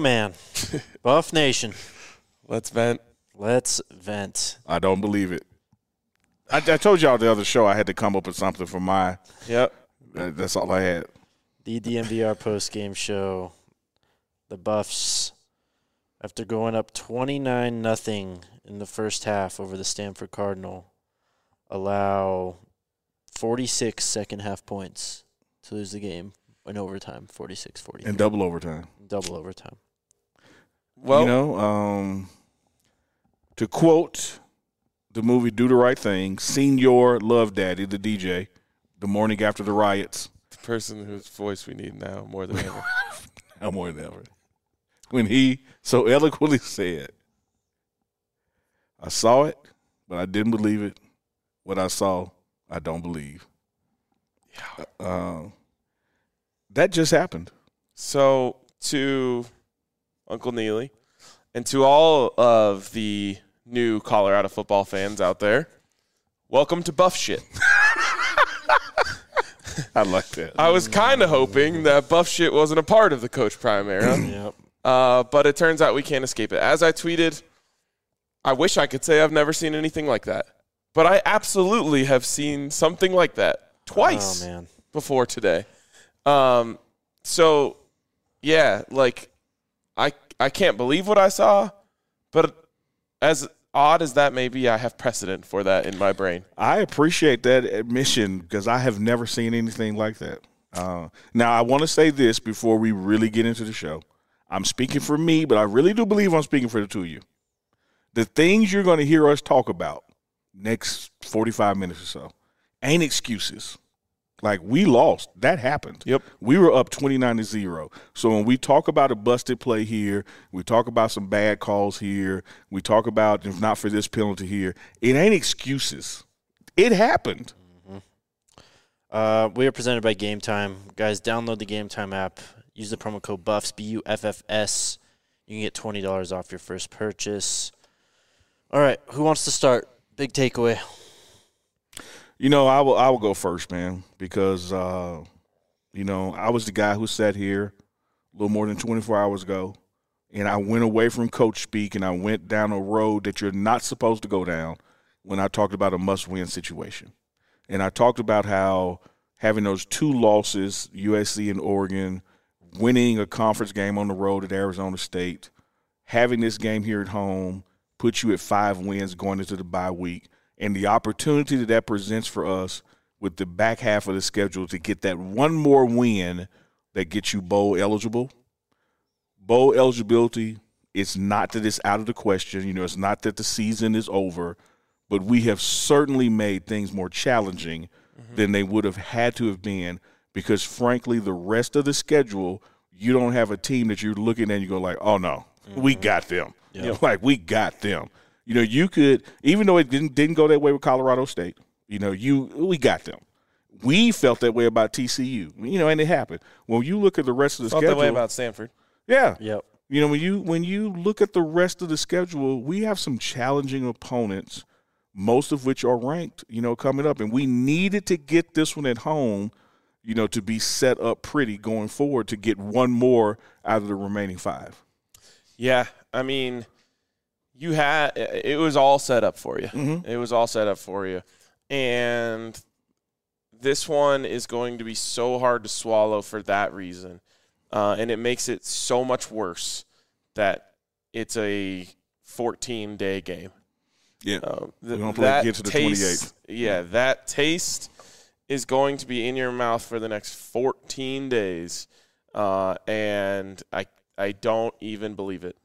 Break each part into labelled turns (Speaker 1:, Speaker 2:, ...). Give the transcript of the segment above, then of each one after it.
Speaker 1: man. Buff Nation.
Speaker 2: Let's vent.
Speaker 1: Let's vent.
Speaker 3: I don't believe it. I told y'all the other show I had to come up with something for my –
Speaker 2: Yep.
Speaker 3: That's all I had.
Speaker 1: The DMVR post-game show. The Buffs, after going up 29-0 in the first half over the Stanford Cardinal, allow 46 second-half points to lose the game in overtime, 46-40.
Speaker 3: In double overtime.
Speaker 1: Double overtime.
Speaker 2: Well,
Speaker 3: to quote the movie Do the Right Thing, Senior Love Daddy, the DJ, the morning after the riots.
Speaker 2: the person whose voice we need now more than ever.
Speaker 3: Now more than ever. When he so eloquently said, I saw it, but I didn't believe it. What I saw, I don't believe. That just happened.
Speaker 2: So, to Uncle Neely and to all of the new Colorado football fans out there, welcome to Buff Shit.
Speaker 3: I like that.
Speaker 2: I was kind of hoping that Buff Shit wasn't a part of the Coach Prime era.
Speaker 1: Yep.
Speaker 2: But it turns out we can't escape it. As I tweeted, I wish I could say I've never seen anything like that. But I absolutely have seen something like that twice before today. So, yeah, like, I can't believe what I saw. But as odd as that may be, I have precedent for that in my brain.
Speaker 3: I appreciate that admission because I have never seen anything like that. Now, I want to say this before we really get into the show. I'm speaking for me, but I really do believe I'm speaking for the two of you. The things you're going to hear us talk about next 45 minutes or so ain't excuses. Like, we lost. That happened.
Speaker 2: Yep.
Speaker 3: We were up 29-0. So when we talk about a busted play here, we talk about some bad calls here, we talk about, if not for this penalty here, it ain't excuses. It happened.
Speaker 1: We are presented by Game Time. Guys, download the Game Time app. Use the promo code BUFFS, BUFFS. You can get $20 off your first purchase. All right, who wants to start? Big takeaway.
Speaker 3: You know, I will go first, man, because, you know, I was the guy who sat here a little more than 24 hours ago, and I went away from coach speak, and I went down a road that you're not supposed to go down when I talked about a must-win situation. And I talked about how having those two losses, USC and Oregon, winning a conference game on the road at Arizona State, having this game here at home, puts you at 5 wins going into the bye week, and the opportunity that presents for us with the back half of the schedule to get that one more win that gets you bowl eligible. Bowl eligibility, it's not that it's out of the question. You know, it's not that the season is over, but we have certainly made things more challenging than they would have had to have been because, frankly, the rest of the schedule, you don't have a team that you're looking at and you go like, oh, no, we got them.
Speaker 1: Yep.
Speaker 3: You know, like, we got them. You know, you could, even though it didn't go that way with Colorado State, you know, we got them. We felt that way about TCU, you know, and it happened. When you look at the rest of the schedule.
Speaker 2: Felt that way about Stanford.
Speaker 3: Yeah.
Speaker 1: Yep.
Speaker 3: You know, when you look at the rest of the schedule, we have some challenging opponents, most of which are ranked, you know, coming up. And we needed to get this one at home, you know, to be set up pretty going forward to get one more out of the remaining 5.
Speaker 2: Yeah, I mean, it was all set up for you.
Speaker 3: Mm-hmm.
Speaker 2: It was all set up for you. And this one is going to be so hard to swallow for that reason. And it makes it so much worse that it's a 14-day game.
Speaker 3: Yeah, we're going to get to the 28th.
Speaker 2: Yeah, that taste is going to be in your mouth for the next 14 days. And I don't even believe it.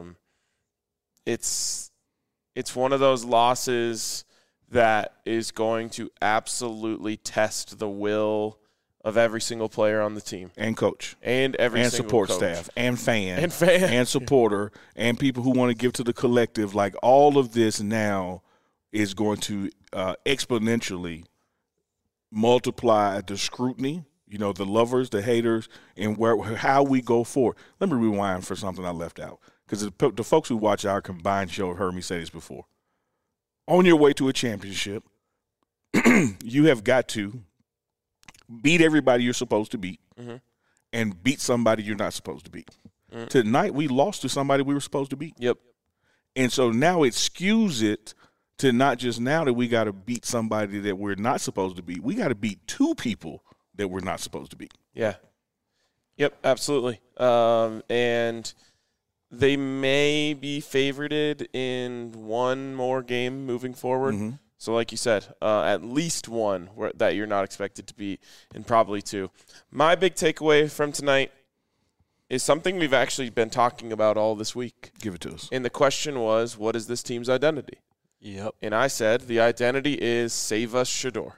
Speaker 2: It's one of those losses that is going to absolutely test the will of every single player on the team
Speaker 3: and coach
Speaker 2: and every
Speaker 3: and
Speaker 2: single
Speaker 3: support
Speaker 2: coach.
Speaker 3: staff and fan
Speaker 2: and
Speaker 3: supporter and people who want to give to the collective. Like, all of this now is going to exponentially multiply the scrutiny, you know, the lovers, the haters, and how we go forward. Let me rewind for something I left out, because the folks who watch our combined show have heard me say this before. On your way to a championship, you have got to beat everybody you're supposed to beat and beat somebody you're not supposed to beat. Tonight we lost to somebody we were supposed to beat.
Speaker 2: Yep.
Speaker 3: And so now it skews it to not just now that we got to beat somebody that we're not supposed to beat. We got to beat two people that we're not supposed to beat.
Speaker 2: Yeah. Yep, absolutely. And they may be favorited in one more game moving forward.
Speaker 3: Mm-hmm.
Speaker 2: So like you said, at least one that you're not expected to beat, and probably two. My big takeaway from tonight is something we've actually been talking about all this week.
Speaker 3: Give it to us.
Speaker 2: And the question was, what is this team's identity?
Speaker 1: Yep.
Speaker 2: And I said the identity is save us, Shedeur.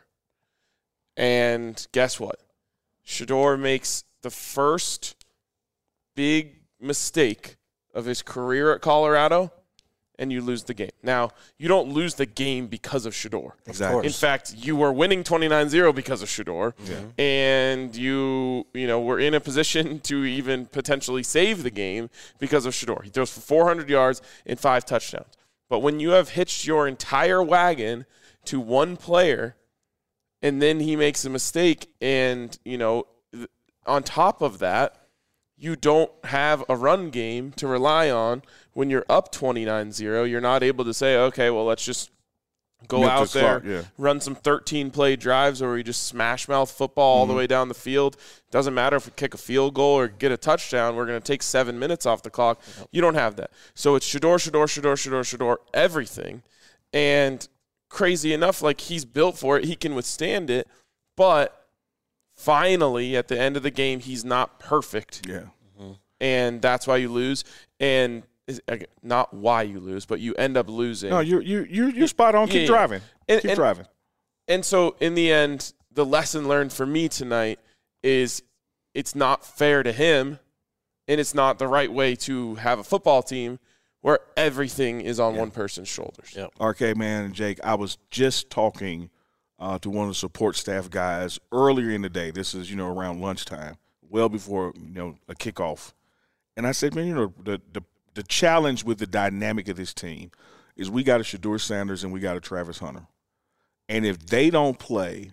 Speaker 2: And guess what? Shedeur makes the first big mistake of his career at Colorado, and you lose the game. Now, you don't lose the game because of Shedeur.
Speaker 3: Exactly.
Speaker 2: In fact, you were winning 29-0 because of Shedeur, and you were in a position to even potentially save the game because of Shedeur. He throws for 400 yards and 5 touchdowns. But when you have hitched your entire wagon to one player, and then he makes a mistake, and on top of that, you don't have a run game to rely on when you're up 29-0. You're not able to say, okay, well, let's just go out there, run some 13-play drives where we just smash mouth football all the way down the field. Doesn't matter if we kick a field goal or get a touchdown. We're going to take 7 minutes off the clock. You don't have that. So it's Shedeur, everything. And crazy enough, like, he's built for it. He can withstand it. But finally, at the end of the game, he's not perfect.
Speaker 3: Yeah.
Speaker 2: And that's why you lose. And not why you lose, but you end up losing.
Speaker 3: No, you're spot on. Keep driving. Keep driving.
Speaker 2: And so, in the end, the lesson learned for me tonight is it's not fair to him, and it's not the right way to have a football team where everything is on one person's shoulders.
Speaker 1: Yep.
Speaker 3: RK, man, and Jake, I was just talking to one of the support staff guys earlier in the day. This is, around lunchtime, well before, a kickoff. And I said, man, the challenge with the dynamic of this team is we got a Shedeur Sanders and we got a Travis Hunter. And if they don't play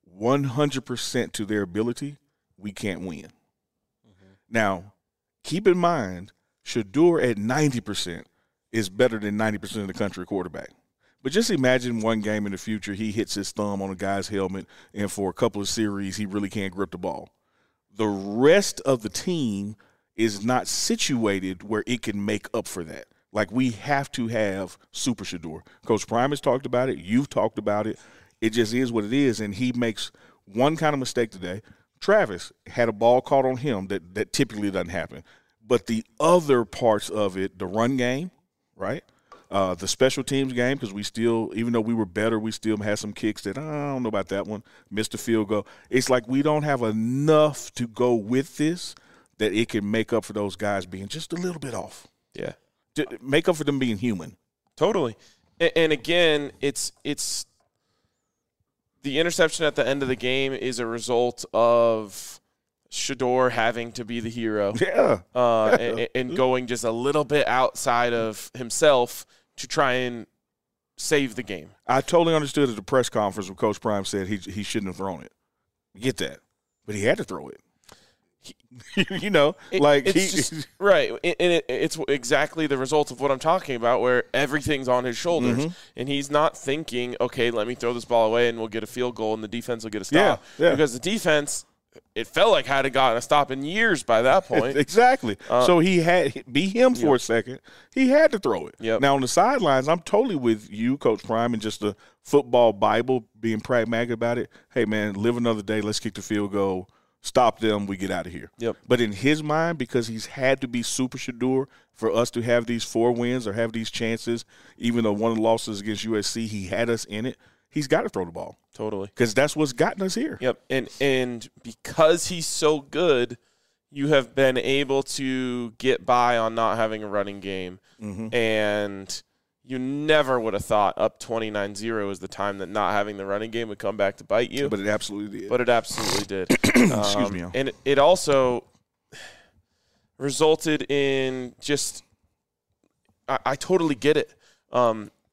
Speaker 3: 100% to their ability, we can't win. Now, keep in mind, Shedeur at 90% is better than 90% of the country quarterback. But just imagine one game in the future, he hits his thumb on a guy's helmet, and for a couple of series, he really can't grip the ball. The rest of the team is not situated where it can make up for that. Like, we have to have Super Shedeur. Coach Prime has talked about it. You've talked about it. It just is what it is, and he makes one kind of mistake today. Travis had a ball caught on him that typically doesn't happen. But the other parts of it, the run game, right? The special teams game, because we still, even though we were better, we still had some kicks that, I don't know about that one, missed a field goal. It's like we don't have enough to go with this that it can make up for those guys being just a little bit off.
Speaker 2: Yeah.
Speaker 3: To make up for them being human.
Speaker 2: Totally. And again, it's the interception at the end of the game is a result of Shedeur having to be the hero.
Speaker 3: Yeah.
Speaker 2: And going just a little bit outside of himself to try and save the game.
Speaker 3: I totally understood at the press conference when Coach Prime said he shouldn't have thrown it. Get that. But he had to throw it.
Speaker 2: Right. And it's exactly the result of what I'm talking about, where everything's on his shoulders. And he's not thinking, okay, let me throw this ball away and we'll get a field goal and the defense will get a stop.
Speaker 3: Yeah.
Speaker 2: Because the defense, it felt like hadn't gotten a stop in years by that point.
Speaker 3: Exactly. So he had be him for a second. He had to throw it.
Speaker 2: Yep.
Speaker 3: Now on the sidelines, I'm totally with you, Coach Prime, and just the football Bible, being pragmatic about it. Hey man, live another day. Let's kick the field goal. Stop them. We get out of here.
Speaker 2: Yep.
Speaker 3: But in his mind, because he's had to be Super Shedeur for us to have these 4 wins or have these chances, even though one of the losses against USC, he had us in it. He's got to throw the ball.
Speaker 2: Totally.
Speaker 3: Because that's what's gotten us here.
Speaker 2: Yep. And because he's so good, you have been able to get by on not having a running game. And you never would have thought up 29-0 is the time that not having the running game would come back to bite you.
Speaker 3: But it absolutely did.
Speaker 2: Did.
Speaker 3: Excuse me.
Speaker 2: And it also resulted in just I totally get it.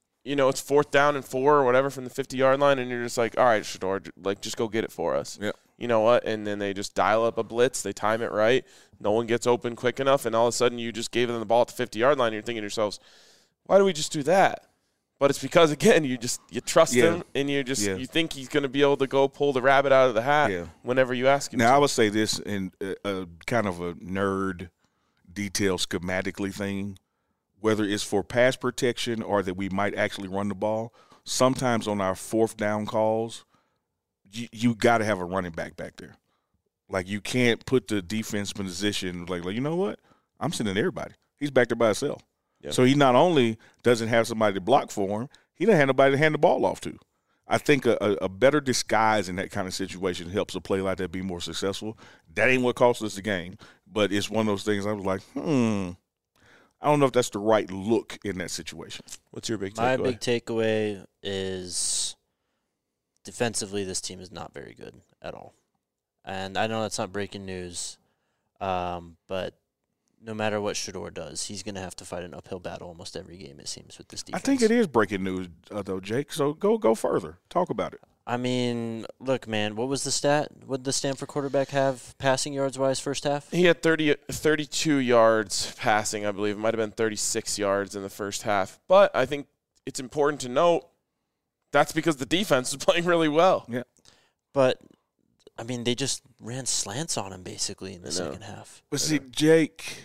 Speaker 2: It's 4th down and 4 or whatever from the 50-yard line, and you're just like, all right, Shedeur, like, just go get it for us.
Speaker 3: Yep.
Speaker 2: you know what, and then they just dial up a blitz, they time it right, no one gets open quick enough, and all of a sudden you just gave them the ball at the 50-yard line, and you're thinking to yourselves, why do we just do that? But it's because, again, you trust him, and you think he's going to be able to go pull the rabbit out of the hat whenever you ask him
Speaker 3: Now,
Speaker 2: to.
Speaker 3: I would say this in kind of a nerd detail schematically thing, whether it's for pass protection or that we might actually run the ball, sometimes on our fourth down calls, you got to have a running back there. Like, you can't put the defense in position like, you know what? I'm sending everybody. He's back there by himself. Yeah. So he not only doesn't have somebody to block for him, he doesn't have nobody to hand the ball off to. I think a better disguise in that kind of situation helps a play like that be more successful. That ain't what cost us the game, but it's one of those things I was like, I don't know if that's the right look in that situation.
Speaker 2: What's your big takeaway?
Speaker 1: My big takeaway is defensively this team is not very good at all. And I know that's not breaking news, but no matter what Shedeur does, he's going to have to fight an uphill battle almost every game, it seems, with this defense.
Speaker 3: I think it is breaking news, though, Jake. So go further. Talk about it.
Speaker 1: I mean, look, man, what was the stat? What did the Stanford quarterback have passing yards-wise first half?
Speaker 2: He had 32 yards passing, I believe. It might have been 36 yards in the first half. But I think it's important to note that's because the defense is playing really well.
Speaker 3: Yeah.
Speaker 1: But, I mean, they just ran slants on him basically in the second half.
Speaker 3: But see, Jake,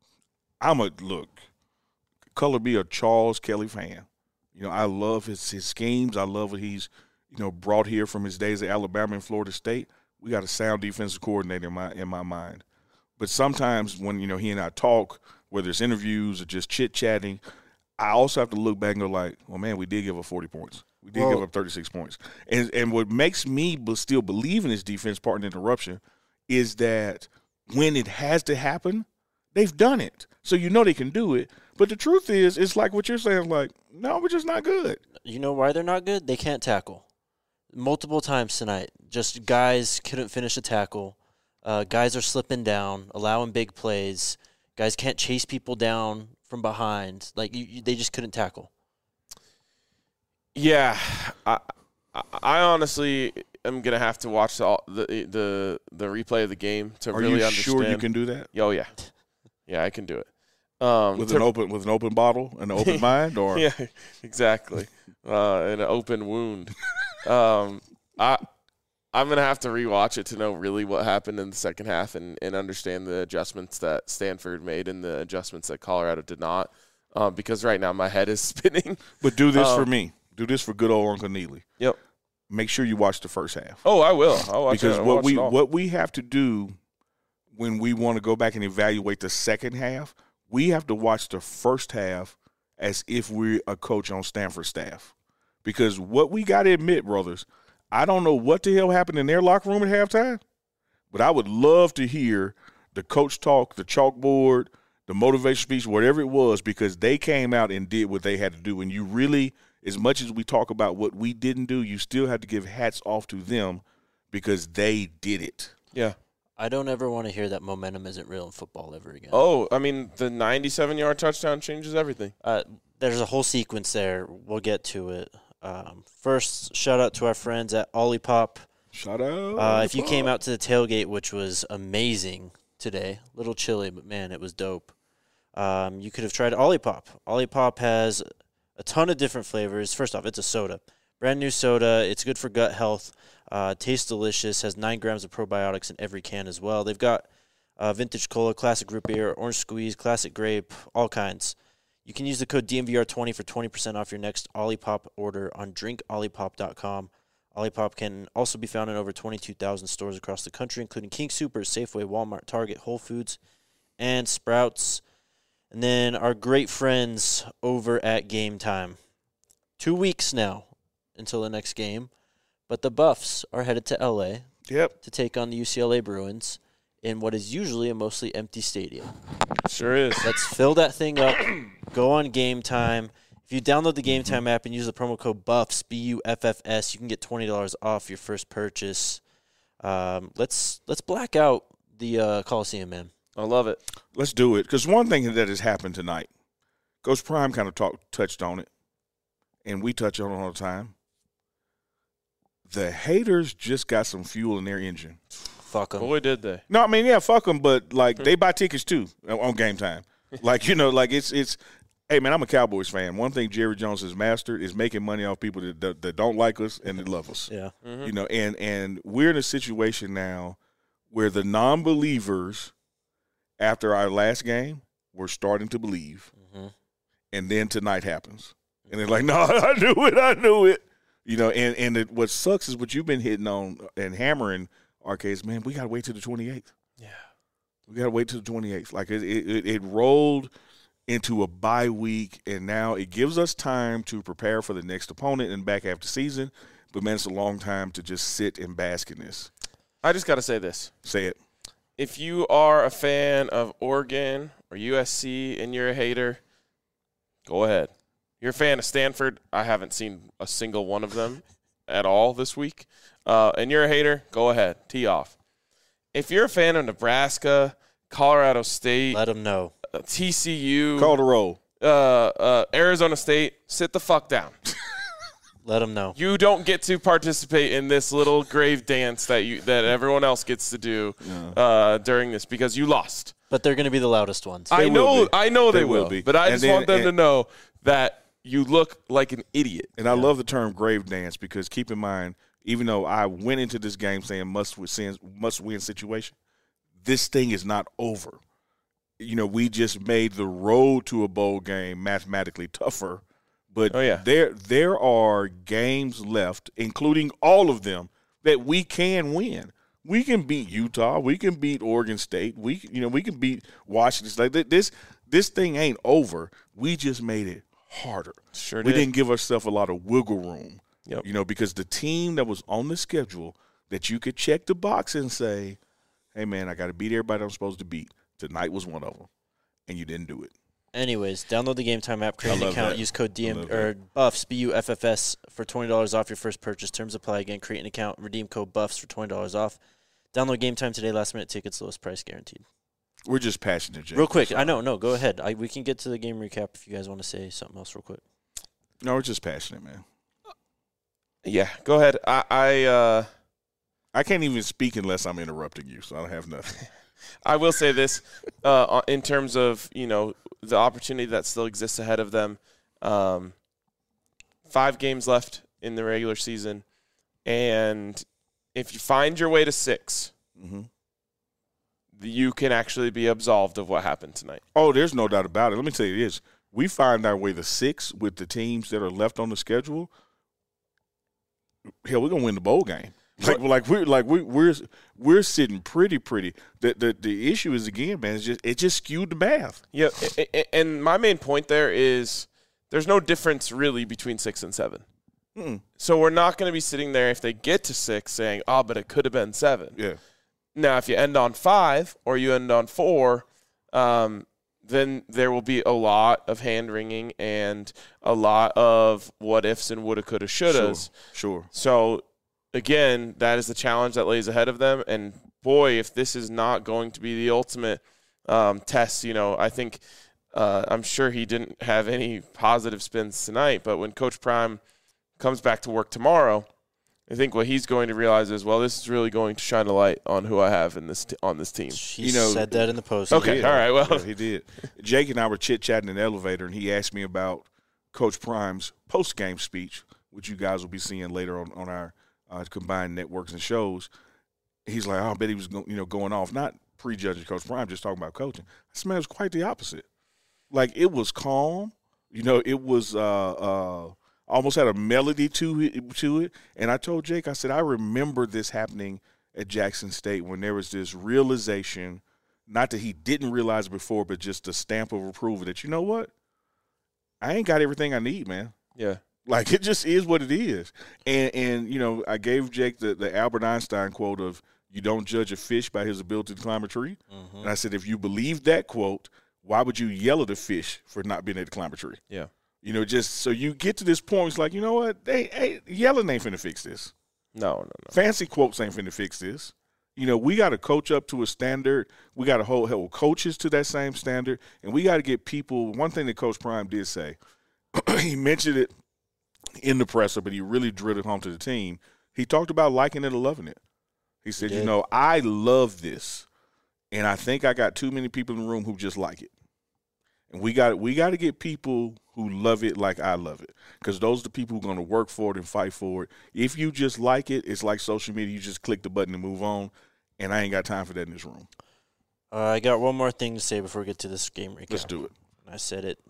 Speaker 3: color be a Charles Kelly fan. You know, I love his schemes. I love what he's, brought here from his days at Alabama and Florida State. We got a sound defensive coordinator in my mind. But sometimes when, he and I talk, whether it's interviews or just chit-chatting, I also have to look back and go like, well, man, we did give up 40 points. We did give up 36 points. And what makes me still believe in this defense, pardon the interruption, is that when it has to happen, they've done it. So they can do it. But the truth is, it's like what you're saying, like, no, we're just not good.
Speaker 1: You know why they're not good? They can't tackle. Multiple times tonight, just guys couldn't finish a tackle. Guys are slipping down, allowing big plays. Guys can't chase people down from behind. Like, they just couldn't tackle.
Speaker 2: Yeah, I honestly am gonna have to watch the replay of the game to really understand.
Speaker 3: Are you sure you can do that?
Speaker 2: Oh yeah, yeah, I can do it.
Speaker 3: With an open bottle and an open mind, or
Speaker 2: yeah, exactly, and an open wound. I'm gonna have to rewatch it to know really what happened in the second half and understand the adjustments that Stanford made and the adjustments that Colorado did not. Because right now my head is spinning.
Speaker 3: But do this for me. Do this for good old Uncle Neely.
Speaker 2: Yep.
Speaker 3: Make sure you watch the first half.
Speaker 2: Oh, I will. I'll watch
Speaker 3: because
Speaker 2: it.
Speaker 3: what we have to do when we want to go back and evaluate the second half, we have to watch the first half as if we're a coach on Stanford staff. Because what we got to admit, brothers, I don't know what the hell happened in their locker room at halftime, but I would love to hear the coach talk, the chalkboard, the motivation speech, whatever it was, because they came out and did what they had to do. And you really, as much as we talk about what we didn't do, you still have to give hats off to them because they did it.
Speaker 2: Yeah.
Speaker 1: I don't ever want to hear that momentum isn't real in football ever again.
Speaker 2: Oh, I mean, the 97-yard touchdown changes everything.
Speaker 1: There's a whole sequence there. We'll get to it. First, shout out to our friends at Olipop.
Speaker 3: Shout out.
Speaker 1: If you came out to the tailgate, which was amazing today, a little chilly, but man, it was dope. You could have tried Olipop. Olipop has a ton of different flavors. First off, it's a soda. Brand new soda. It's good for gut health. Tastes delicious. Has 9 grams of probiotics in every can as well. They've got vintage cola, classic root beer, orange squeeze, classic grape, all kinds. You can use the code DMVR20 for 20% off your next Olipop order on drinkolipop.com. Olipop can also be found in over 22,000 stores across the country, including King Soopers, Safeway, Walmart, Target, Whole Foods, and Sprouts. And then our great friends over at Game Time. 2 weeks now until the next game, but the Buffs are headed to L.A.
Speaker 3: Yep.
Speaker 1: to take on the UCLA Bruins in what is usually a mostly empty stadium.
Speaker 2: Sure is.
Speaker 1: Let's fill that thing up. Go on Game Time. If you download the Game Time app and use the promo code BUFFS, BUFFS, you can get $20 off your first purchase. Let's black out the Coliseum, man.
Speaker 2: I love it.
Speaker 3: Let's do it. Because one thing that has happened tonight, Coach Prime kind of touched on it, and we touch on it all the time. the haters just got some fuel in their engine.
Speaker 1: Fuck them.
Speaker 2: Boy, did they.
Speaker 3: No, I mean, yeah, fuck them, but, like, they buy tickets, too, on game time. Like, you know, like, it's hey, man, I'm a Cowboys fan. One thing Jerry Jones has mastered is making money off people that don't like us and that love us.
Speaker 1: Yeah.
Speaker 3: You know, and we're in a situation now where the non-believers, after our last game, were starting to believe. And then tonight happens. And they're like, no, I knew it. You know, and what sucks is what you've been hitting on and hammering, Arcades, man, we got to wait till the 28th.
Speaker 2: Yeah.
Speaker 3: We got to wait till the 28th. Like, it rolled into a bye week, and now it gives us time to prepare for the next opponent in the back half of the season. But, man, it's a long time to just sit and bask in this.
Speaker 2: I just got to say this.
Speaker 3: Say it.
Speaker 2: If you are a fan of Oregon or USC and you're a hater, go ahead. You're a fan of Stanford. I haven't seen a single one of them at all this week. And you're a hater, go ahead. Tee off. If you're a fan of Nebraska, Colorado State,
Speaker 1: Let them know.
Speaker 2: TCU,
Speaker 3: Call the roll.
Speaker 2: Arizona State, sit the fuck down.
Speaker 1: Let them know.
Speaker 2: You don't get to participate in this little grave dance that everyone else gets to do during this because you lost.
Speaker 1: But they're going to be the loudest ones.
Speaker 2: I know they
Speaker 3: They
Speaker 2: will
Speaker 3: will be.
Speaker 2: But I
Speaker 3: And
Speaker 2: just
Speaker 3: then-
Speaker 2: want them to
Speaker 3: and-
Speaker 2: know that you look like an idiot.
Speaker 3: And I love the term grave dance because keep in mind, even though I went into this game saying must win situation, this thing is not over. You know, we just made the road to a bowl game mathematically tougher. But there are games left, including all of them, that we can win. We can beat Utah. We can beat Oregon State. We can beat Washington. Like this thing ain't over. We just made it harder.
Speaker 2: Sure
Speaker 3: We
Speaker 2: did.
Speaker 3: didn't give ourselves a lot of wiggle room.
Speaker 2: Yep.
Speaker 3: You know, because the team that was on the schedule that you could check the box and say, hey, man, I got to beat everybody I'm supposed to beat. Tonight was one of them, and you didn't do it.
Speaker 1: Anyways, download the Game Time app, create an account,
Speaker 3: that.
Speaker 1: use code
Speaker 3: I
Speaker 1: DM
Speaker 3: love
Speaker 1: or Buffs BUFFS for $20 off your first purchase. Terms apply. Again, create an account, redeem code Buffs for $20 off. Download Game Time today. Last minute tickets, lowest price guaranteed.
Speaker 3: We're just passionate, Jake.
Speaker 1: Real quick, I know, no, go ahead. We can get to the game recap if you guys want to say something else real quick.
Speaker 3: No, we're just passionate, man.
Speaker 2: Yeah, go ahead. I
Speaker 3: can't even speak unless I'm interrupting you, so I don't have nothing.
Speaker 2: I will say this in terms of, the opportunity that still exists ahead of them. 5 games left in the regular season. And if you find your way to 6, you can actually be absolved of what happened tonight.
Speaker 3: Oh, there's no doubt about it. Let me tell you this. We find our way to 6 with the teams that are left on the schedule. Hell, we're gonna win the bowl game. We're sitting pretty. The issue is, again, man, it just skewed the math.
Speaker 2: Yeah, and my main point there is there's no difference really between 6 and 7. So we're not going to be sitting there if they get to 6 saying, oh, but it could have been 7.
Speaker 3: Yeah.
Speaker 2: Now, if you end on 5 or you end on 4, then there will be a lot of hand-wringing and a lot of what-ifs and woulda, coulda, shouldas.
Speaker 3: Sure.
Speaker 2: So, again, that is the challenge that lays ahead of them. And, boy, if this is not going to be the ultimate test, I think I'm sure he didn't have any positive spins tonight. But when Coach Prime comes back to work tomorrow, I think what he's going to realize is, well, this is really going to shine a light on who I have on this team.
Speaker 1: He said that in the post.
Speaker 2: Okay, all right, well.
Speaker 3: Yeah, he did. Jake and I were chit-chatting in the elevator, and he asked me about Coach Prime's post-game speech, which you guys will be seeing later on our combined networks and shows. He's like, I bet he was going off, not prejudging Coach Prime, just talking about coaching. I said, man, it was quite the opposite. Like, it was calm. It was almost had a melody to it. And I told Jake, I said, I remember this happening at Jackson State when there was this realization, not that he didn't realize before, but just a stamp of approval that, you know what? I ain't got everything I need, man.
Speaker 2: Yeah.
Speaker 3: Like, it just is what it is. And I gave Jake the Albert Einstein quote of, you don't judge a fish by his ability to climb a tree. And I said, if you believe that quote, why would you yell at a fish for not being able to climb a tree?
Speaker 2: Yeah.
Speaker 3: Just so you get to this point, it's like, you know what? Yelling ain't finna fix this.
Speaker 2: No.
Speaker 3: Fancy quotes ain't finna fix this. We got to coach up to a standard. We got to hold coaches to that same standard. And we got to get people – one thing that Coach Prime did say, he mentioned it in the presser, but he really drilled it home to the team. He talked about liking it and loving it. He said,
Speaker 1: He
Speaker 3: you
Speaker 1: did.
Speaker 3: know, I love this, and I think I got too many people in the room who just like it. And we got to get people who love it like I love it, because those are the people who are going to work for it and fight for it. If you just like it, it's like social media. You just click the button and move on, and I ain't got time for that in this room.
Speaker 1: I got one more thing to say before we get to this game recap.
Speaker 3: Let's do it.
Speaker 1: I said it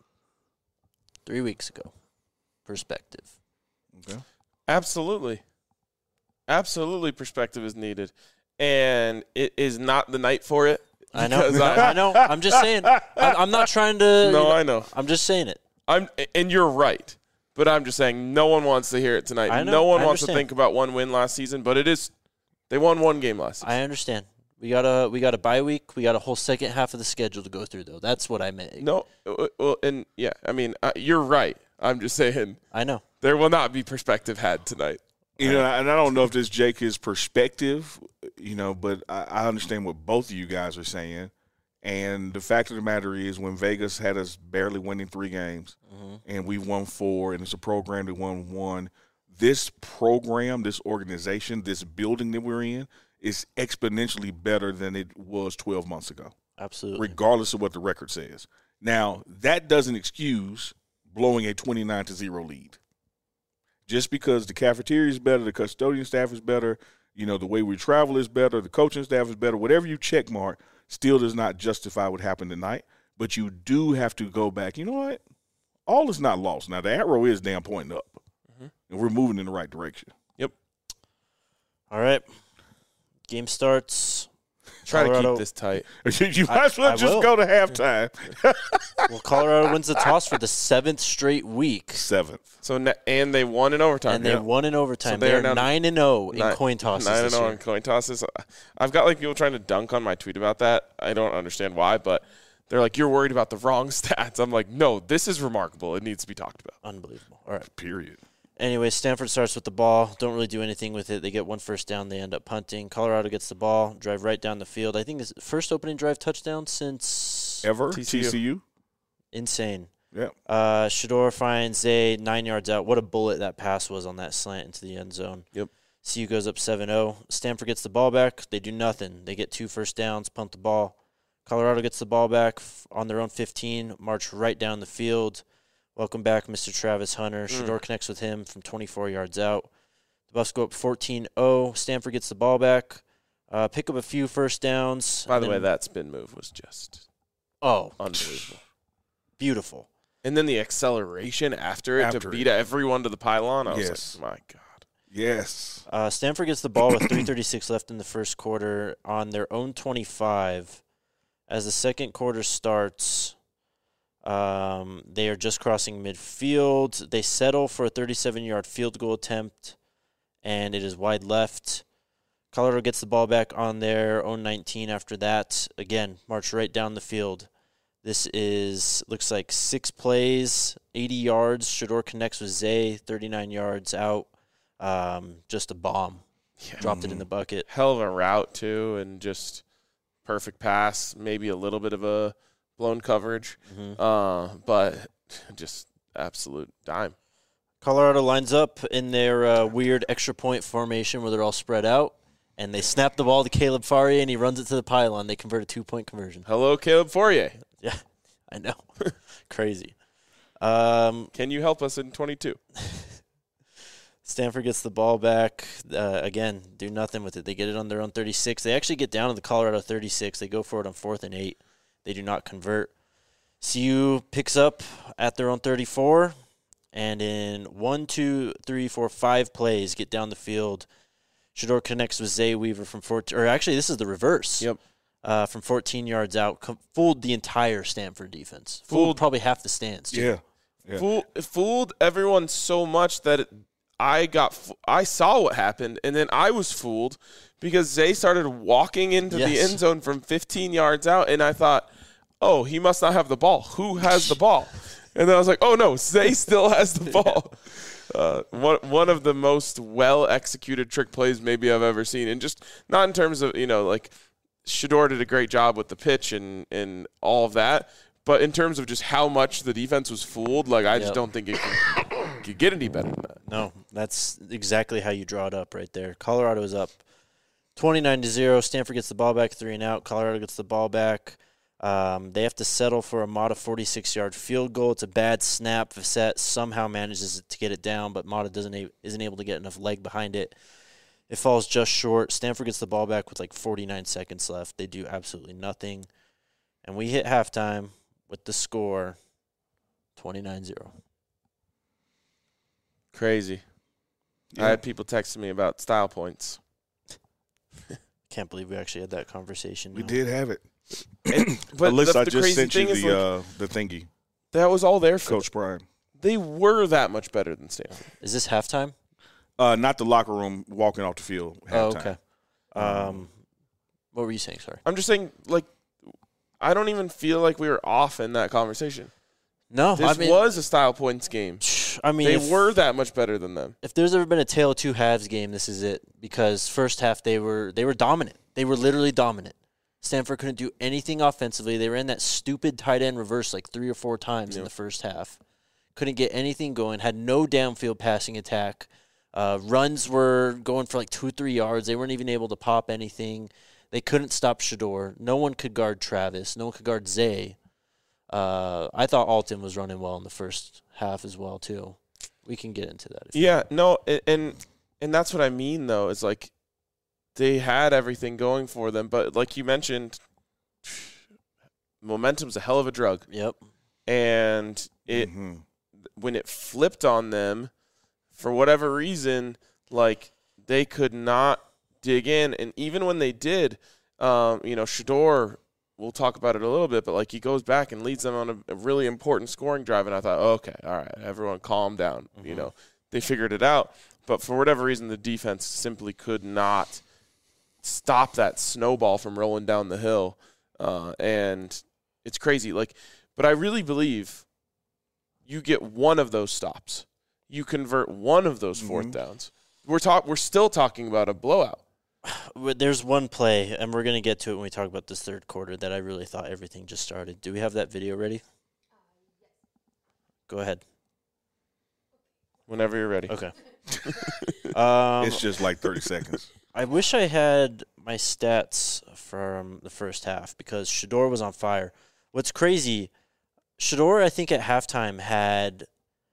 Speaker 1: 3 weeks ago. Perspective.
Speaker 3: Okay.
Speaker 2: Absolutely. Absolutely, perspective is needed. And it is not the night for it.
Speaker 1: I know.
Speaker 2: because
Speaker 1: I know. I'm just saying. I'm not trying to.
Speaker 2: No, I know.
Speaker 1: I'm just saying it.
Speaker 2: And you're right. But I'm just saying no one wants to hear it tonight.
Speaker 1: I know,
Speaker 2: No one
Speaker 1: I
Speaker 2: wants to
Speaker 1: understand.
Speaker 2: think about one win last season, but it is they won one game last season.
Speaker 1: I understand. We got a bye week. We got a whole second half of the schedule to go through, though. That's what I meant.
Speaker 2: No, well, and yeah, I mean, you're right. I'm just saying
Speaker 1: I know.
Speaker 2: there will not be perspective had tonight.
Speaker 3: You know, and I don't know if this Jake is perspective, you know, but I understand what both of you guys are saying. And the fact of the matter is, when Vegas had us barely winning 3 games, and we won 4, and it's a program that won 1, this program, this organization, this building that we're in is exponentially better than it was 12 months ago,
Speaker 1: Absolutely.
Speaker 3: regardless of what the record says. Now, that doesn't excuse blowing a 29-0 lead. Just because the cafeteria is better, the custodian staff is better, you know, the way we travel is better, the coaching staff is better, whatever you check mark still does not justify what happened tonight. But you do have to go back. You know what? All is not lost. Now, the arrow is damn pointing up, and we're moving in the right direction.
Speaker 2: Yep.
Speaker 1: All right. Game starts.
Speaker 2: Try to
Speaker 1: Colorado-
Speaker 2: keep this tight.
Speaker 3: You might as well
Speaker 1: I
Speaker 3: just
Speaker 1: will.
Speaker 3: go to halftime.
Speaker 1: Well, Colorado wins the toss for the 7th straight week,
Speaker 3: 7th.
Speaker 2: So and they won in overtime.
Speaker 1: and they won in overtime.
Speaker 2: So they are
Speaker 1: They're
Speaker 2: now
Speaker 1: 9-0 in coin tosses
Speaker 2: 9-0
Speaker 1: this year.
Speaker 2: in coin tosses. I've got like people trying to dunk on my tweet about that. I don't understand why, but they're like, "You're worried about the wrong stats." I'm like, "No, this is remarkable. It needs to be talked about."
Speaker 1: Unbelievable. All right.
Speaker 3: Period.
Speaker 1: Anyway, Stanford starts with the ball. Don't really do anything with it. They get one first down. They end up punting. Colorado gets the ball, drive right down the field. I think it's the first opening drive touchdown since
Speaker 3: Ever?
Speaker 2: TCU.
Speaker 3: TCU?
Speaker 1: insane.
Speaker 3: Yeah.
Speaker 1: Shador finds a 9 yards out. What a bullet that pass was on that slant into the end zone.
Speaker 2: Yep.
Speaker 1: CU goes up 7-0. Stanford gets the ball back. They do nothing. They get 2 first downs, punt the ball. Colorado gets the ball back on their own 15, march right down the field. Welcome back, Mr. Travis Hunter. Shador connects with him from 24 yards out. The Buffs go up 14-0. Stanford gets the ball back, pick up a few first downs.
Speaker 2: By the way,
Speaker 1: and-
Speaker 2: that spin move was just unbelievable.
Speaker 1: Beautiful.
Speaker 2: And then the acceleration after it to
Speaker 3: After
Speaker 2: beat everyone to the pylon. I was
Speaker 3: Yes.
Speaker 2: like, my God.
Speaker 3: Yes.
Speaker 1: Stanford gets the ball with 3:36 left in the first quarter on their own 25. As the second quarter starts, they are just crossing midfield. They settle for a 37-yard field goal attempt, and it is wide left. Colorado gets the ball back on their own 19 after that. Again, march right down the field. This looks like 6 plays, 80 yards. Shador connects with Zay, 39 yards out. Just a bomb.
Speaker 2: Yeah.
Speaker 1: Dropped it in the bucket.
Speaker 2: Hell of a route, too, and just perfect pass. Maybe a little bit of a blown coverage, but just absolute dime.
Speaker 1: Colorado lines up in their weird extra point formation where they're all spread out, and they snap the ball to Caleb Faria, and he runs it to the pylon. They convert a 2-point conversion.
Speaker 2: Hello, Caleb Fourier.
Speaker 1: Yeah, I know. Crazy.
Speaker 2: Can you help us in 22?
Speaker 1: Stanford gets the ball back. Again, do nothing with it. They get it on their own 36. They actually get down to the Colorado 36. They go for it on 4th and 8. They do not convert. CU picks up at their own 34, and in 5 plays, get down the field. Shador connects with Zay Weaver from 14. Or actually, this is the reverse.
Speaker 2: Yep.
Speaker 1: From 14 yards out, fooled the entire Stanford defense. Fooled
Speaker 2: Fooled-
Speaker 1: probably half the stands. Too.
Speaker 3: Yeah.
Speaker 2: Fooled everyone so much that I saw what happened, and then I was fooled because Zay started walking into the
Speaker 1: Yes.
Speaker 2: end zone from 15 yards out, and I thought, oh, he must not have the ball. Who has the ball? And then I was like, oh, no, Zay still has the ball. One of the most well-executed trick plays maybe I've ever seen, and just not in terms of, like Shador did a great job with the pitch and all of that, but in terms of just how much the defense was fooled, like I just
Speaker 1: Yep.
Speaker 2: don't think it can think you get any better than that.
Speaker 1: No, that's exactly how you draw it up right there. Colorado is up 29-0. Stanford gets the ball back, 3 and out. Colorado gets the ball back. They have to settle for a Mata 46-yard field goal. It's a bad snap. Facette somehow manages to get it down, but Mata isn't able to get enough leg behind it. It falls just short. Stanford gets the ball back with like 49 seconds left. They do absolutely nothing. And we hit halftime with the score 29-0.
Speaker 2: Crazy.
Speaker 3: Yeah.
Speaker 2: I had people texting me about style points.
Speaker 1: Can't believe we actually had that conversation.
Speaker 3: We
Speaker 1: now.
Speaker 3: did have it.
Speaker 2: But
Speaker 3: Alyssa, I
Speaker 2: the
Speaker 3: just
Speaker 2: crazy
Speaker 3: sent you
Speaker 2: thing is,
Speaker 3: the thingy,
Speaker 2: that was all there for
Speaker 3: Coach Brian.
Speaker 2: They were that much better than Stanford.
Speaker 1: Is this halftime?
Speaker 3: Not the locker room, walking off the field.
Speaker 1: Oh,
Speaker 3: Halftime.
Speaker 1: okay. What were you saying? Sorry.
Speaker 2: I'm just saying, like, I don't even feel like we were off in that conversation.
Speaker 1: No,
Speaker 2: This was a style points game.
Speaker 1: I mean,
Speaker 2: They were that much better than them.
Speaker 1: If there's ever been a tale of two halves game, this is it. Because first half they were dominant. They were literally dominant. Stanford couldn't do anything offensively. They ran that stupid tight end reverse like 3 or 4 times in the first half. Couldn't get anything going. Had no downfield passing attack. Runs were going for like 2-3 yards. They weren't even able to pop anything. They couldn't stop Shador. No one could guard Travis. No one could guard Zay. I thought Alton was running well in the first half as well too. We can get into that.
Speaker 2: And that's what I mean though. Is like they had everything going for them, but like you mentioned, momentum's a hell of a drug.
Speaker 1: Yep.
Speaker 2: And when it flipped on them, for whatever reason, like they could not dig in, and even when they did, Shador. We'll talk about it a little bit, but like he goes back and leads them on a really important scoring drive, and I thought, okay, all right, everyone calm down. They figured it out, but for whatever reason, the defense simply could not stop that snowball from rolling down the hill, and it's crazy. Like, but I really believe you get one of those stops, you convert one of those fourth downs. We're still talking about a blowout.
Speaker 1: There's one play, and we're going to get to it when we talk about this third quarter, that I really thought everything just started. Do we have that video ready? Go ahead.
Speaker 2: Whenever you're ready.
Speaker 1: Okay.
Speaker 3: It's just like 30 seconds.
Speaker 1: I wish I had my stats from the first half because Shador was on fire. What's crazy, Shador, I think at halftime had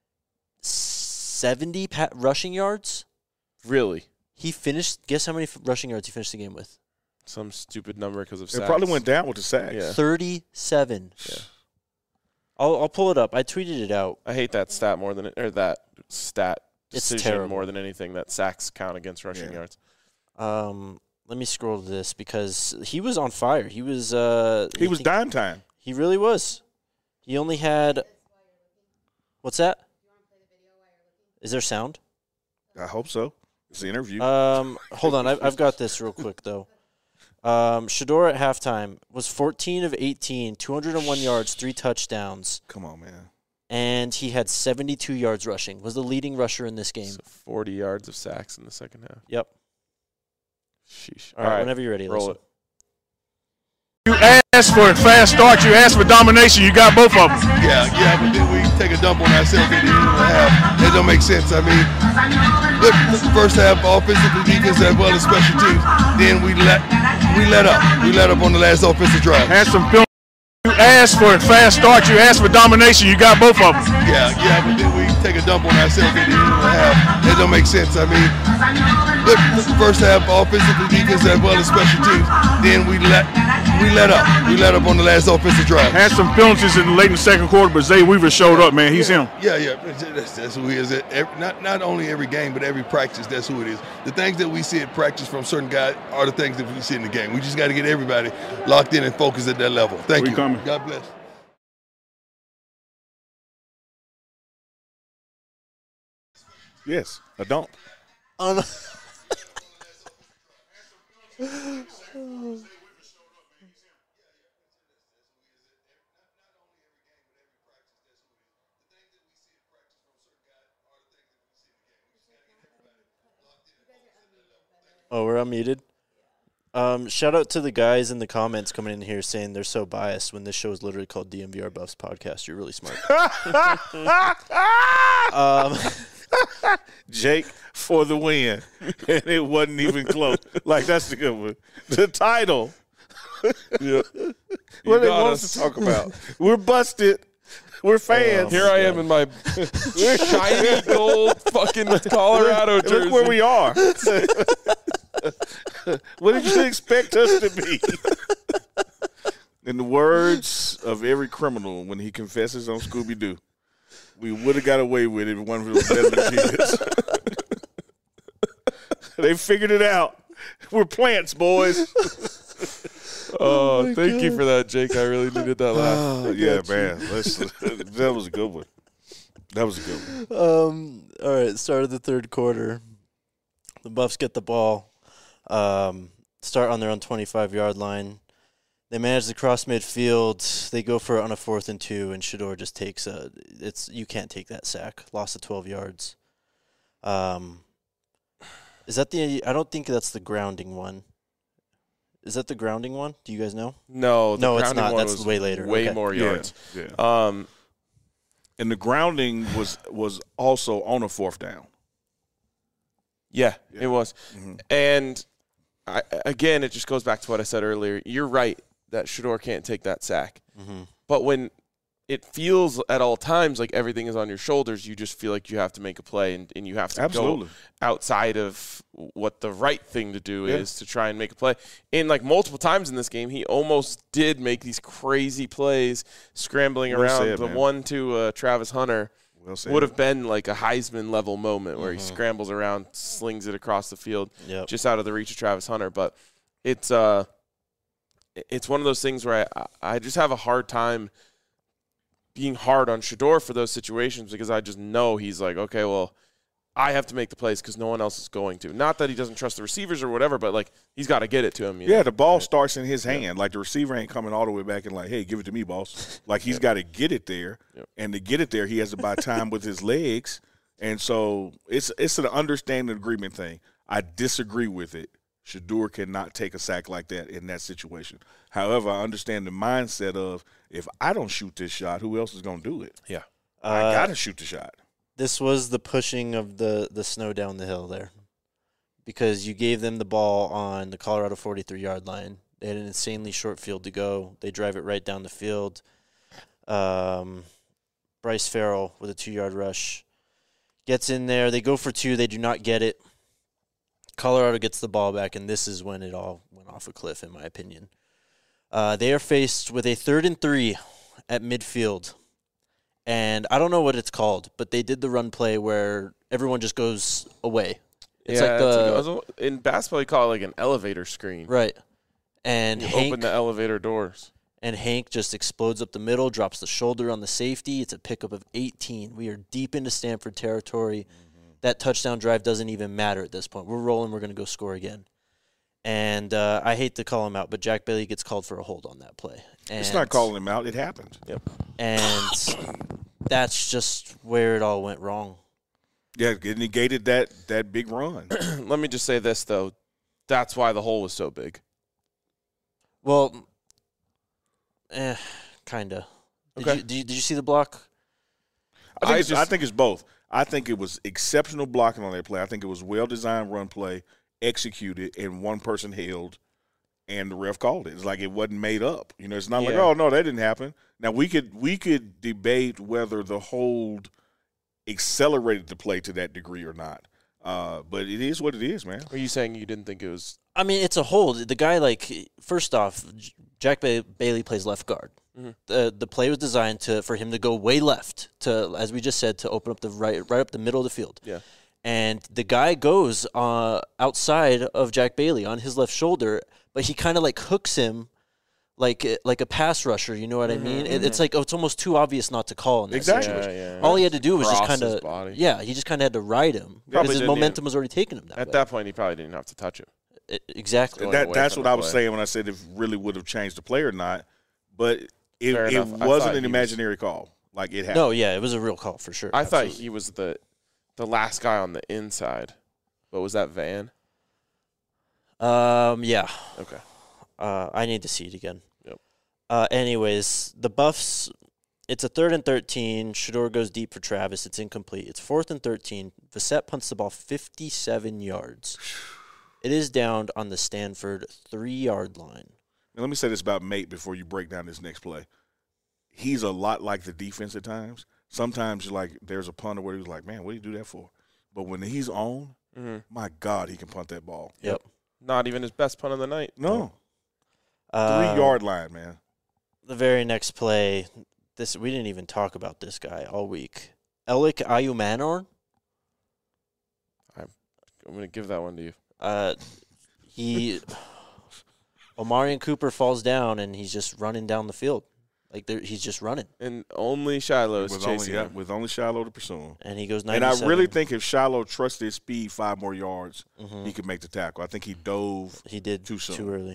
Speaker 1: 70 rushing yards.
Speaker 2: Really?
Speaker 1: He finished, guess how many rushing yards he finished the game with?
Speaker 2: Some stupid number because of sacks.
Speaker 3: It probably went down with the sacks.
Speaker 2: Yeah.
Speaker 1: 37.
Speaker 2: Yeah.
Speaker 1: I'll pull it up. I tweeted it out.
Speaker 2: I hate that stat more than that stat
Speaker 1: It's
Speaker 2: decision
Speaker 1: terrible.
Speaker 2: more than anything, that sacks count against rushing yards.
Speaker 1: Let me scroll to this because he was on fire. He was
Speaker 3: He was dime time.
Speaker 1: He really was. He only had What's that? Is there sound?
Speaker 3: I hope so. It's the interview.
Speaker 1: Hold on. I've got this real quick, though. Shador at halftime was 14 of 18, 201 yards, 3 touchdowns.
Speaker 3: Come on, man.
Speaker 1: And he had 72 yards rushing. Was the leading rusher in this game.
Speaker 2: So 40 yards of sacks in the second half.
Speaker 1: Yep.
Speaker 2: Sheesh.
Speaker 1: All right, whenever you're ready,
Speaker 2: roll
Speaker 1: listen.
Speaker 2: it.
Speaker 4: You asked for a fast start. You asked for domination. You got both of them.
Speaker 5: Yeah, but then we take a dump on ourselves at the end of the half. That don't make sense. I mean, good first half, offensively, defense, as well as special teams. Then we let up. We let up on the last offensive drive.
Speaker 4: Had some film. You asked for a fast start. You asked for domination. You got both of them.
Speaker 5: Yeah, but then we take a dump on ourselves at the end of the half. That don't make sense. I mean, good first half, offensively, defense, as well as special teams. Then we let up. We let up on the last offensive drive.
Speaker 4: Had some penalties in the late in the second quarter, but Zay Weaver showed up, man. He's him.
Speaker 5: Yeah. That's who he is. Not only every game, but every practice, that's who it is. The things that we see at practice from certain guys are the things that we see in the game. We just got to get everybody locked in and focused at that level. Thank you.
Speaker 4: Coming.
Speaker 5: God bless.
Speaker 3: Yes, a dump.
Speaker 1: Oh, we're unmuted. Shout out to the guys in the comments coming in here saying they're so biased when this show is literally called DMVR Buffs Podcast. You're really smart.
Speaker 3: Jake for the win, and it wasn't even close. Like, that's the good one. The title.
Speaker 2: Yeah.
Speaker 3: What they want us to talk about? We're busted. We're fans.
Speaker 2: Here I am in my shiny gold fucking Colorado jersey.
Speaker 3: Look where we are. What did you expect us to be? In the words of every criminal when he confesses on Scooby-Doo, we would have got away with it if one of those better kids. They figured it out. We're plants, boys.
Speaker 2: Oh, thank you for that, Jake. I really needed that laugh.
Speaker 3: Yeah, man. That was a good one. That was a good one.
Speaker 1: All right, start of the third quarter. The Buffs get the ball, start on their own 25-yard line. They manage to cross midfield. They go for it on a 4th and 2, and Shedeur just takes you can't take that sack. Loss of 12 yards. Is that I don't think that's the grounding one. Is that the grounding one? Do you guys know?
Speaker 2: No,
Speaker 1: it's not. That's way later.
Speaker 2: Way more yards.
Speaker 3: Yeah. And the grounding was also on a 4th down.
Speaker 2: Yeah, it was.
Speaker 3: Mm-hmm.
Speaker 2: And again, it just goes back to what I said earlier. You're right that Shedeur can't take that sack.
Speaker 1: Mm-hmm.
Speaker 2: But when it feels at all times like everything is on your shoulders, you just feel like you have to make a play and you have to go outside of what the right thing to do is to try and make a play. And like multiple times in this game, he almost did make these crazy plays scrambling around. The one to Travis Hunter would have been like a Heisman level moment where he scrambles around, slings it across the field just out of the reach of Travis Hunter. But it's one of those things where I just have a hard time being hard on Shedeur for those situations because I just know he's like, okay, well, I have to make the plays because no one else is going to. Not that he doesn't trust the receivers or whatever, but, like, he's got to get it to him. You know?
Speaker 3: The ball starts in his hand. Like, the receiver ain't coming all the way back and like, hey, give it to me, boss. Like, he's got to get it there. And to get it there, he has to buy time with his legs. And so it's an understanding agreement thing. I disagree with it. Shedeur cannot take a sack like that in that situation. However, I understand the mindset of if I don't shoot this shot, who else is going to do it?
Speaker 2: Yeah.
Speaker 3: I got to shoot the shot.
Speaker 1: This was the pushing of the snow down the hill there because you gave them the ball on the Colorado 43-yard line. They had an insanely short field to go. They drive it right down the field. Bryce Farrell with a 2-yard rush gets in there. They go for 2. They do not get it. Colorado gets the ball back, and this is when it all went off a cliff, in my opinion. They are faced with a 3rd and 3 at midfield. And I don't know what it's called, but they did the run play where everyone just goes away. It's
Speaker 2: in basketball, you call it like an elevator screen.
Speaker 1: Right. And
Speaker 2: you open the elevator doors.
Speaker 1: And Hank just explodes up the middle, drops the shoulder on the safety. It's a pickup of 18. We are deep into Stanford territory. That touchdown drive doesn't even matter at this point. We're rolling. We're going to go score again. And I hate to call him out, but Jack Bailey gets called for a hold on that play. And
Speaker 3: it's not calling him out. It happened.
Speaker 2: Yep.
Speaker 1: And that's just where it all went wrong.
Speaker 3: Yeah, it negated that big run.
Speaker 2: Let me just say this, though. That's why the hole was so big.
Speaker 1: Well, kind of.
Speaker 2: Okay.
Speaker 1: Did you see the block?
Speaker 3: I think it's both. I think it was exceptional blocking on that play. I think it was well-designed run play, executed, and one person held, and the ref called it. It's like it wasn't made up. You know, it's not like, oh, no, that didn't happen. Now, we could debate whether the hold accelerated the play to that degree or not. But it is what it is, man.
Speaker 2: Are you saying you didn't think it was?
Speaker 1: I mean, it's a hold. The guy, first off, Jack Bailey plays left guard. Mm-hmm. The play was designed for him to go way left to, as we just said, to open up the right up the middle of the field.
Speaker 2: Yeah.
Speaker 1: And the guy goes outside of Jack Bailey on his left shoulder, but he kind of hooks him like a pass rusher. You know what I mean? It's it's almost too obvious not to call in that situation.
Speaker 2: Yeah.
Speaker 1: All he had to do was just kind of he just kind of had to ride him because his momentum was already taking him that way.
Speaker 2: At that point, he probably didn't have to touch him.
Speaker 1: Exactly.
Speaker 3: That's what I was saying when I said if really would have changed the play or not. But it wasn't an imaginary call. Like it happened.
Speaker 1: No, yeah, it was a real call for sure.
Speaker 2: I thought he was the last guy on the inside. But was that Van?
Speaker 1: Yeah.
Speaker 2: Okay.
Speaker 1: I need to see it again.
Speaker 2: Yep.
Speaker 1: Anyways, the Buffs, it's a 3rd and 13. Shedeur goes deep for Travis. It's incomplete. It's 4th and 13. Vissett punts the ball 57 yards. It is downed on the Stanford 3-yard line.
Speaker 3: Now, let me say this about Mate before you break down this next play. He's a lot like the defense at times. Sometimes there's a punter where he's like, man, what do you do that for? But when he's on, my God, he can punt that ball.
Speaker 1: Yep.
Speaker 2: Not even his best punt of the night.
Speaker 3: No. 3-yard line, man.
Speaker 1: The very next play, we didn't even talk about this guy all week. Elik Ayumanor.
Speaker 2: I'm going to give that one to you.
Speaker 1: Omarion Cooper falls down, and he's just running down the field. He's just running.
Speaker 2: And only Shiloh is chasing him.
Speaker 3: With only Shiloh to pursue him.
Speaker 1: And he goes 97.
Speaker 3: And I really think if Shiloh trusted his speed 5 more yards, he could make the tackle. I think he dove too soon.
Speaker 1: Too early.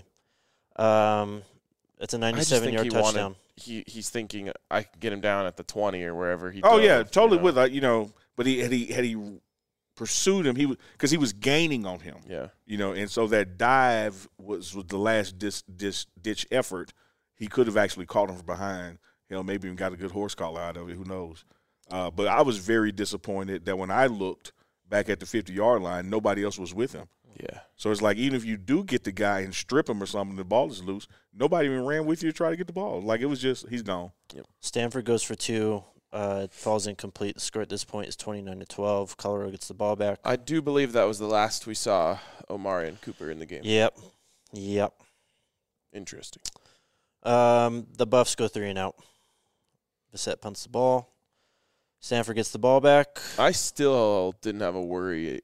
Speaker 1: It's a 97-yard touchdown.
Speaker 2: He's thinking I could get him down at the 20 or wherever he.
Speaker 3: Oh
Speaker 2: dove,
Speaker 3: yeah, totally with that. But had he pursued him, because he was gaining on him.
Speaker 2: Yeah.
Speaker 3: And so that dive was the last ditch effort. He could have actually caught him from behind. Maybe even got a good horse collar out of it. Who knows? But I was very disappointed that when I looked back at the 50-yard line, nobody else was with him.
Speaker 2: Yeah.
Speaker 3: So it's like even if you do get the guy and strip him or something, the ball is loose, nobody even ran with you to try to get the ball. It was just he's gone.
Speaker 1: Yep. Stanford goes for 2. It falls incomplete. The score at this point is 29-12. Colorado gets the ball back.
Speaker 2: I do believe that was the last we saw Omarion Cooper in the game.
Speaker 1: Yep.
Speaker 2: Interesting.
Speaker 1: The Buffs go 3 and out. Vissett punts the ball. Stanford gets the ball back.
Speaker 2: I still didn't have a worry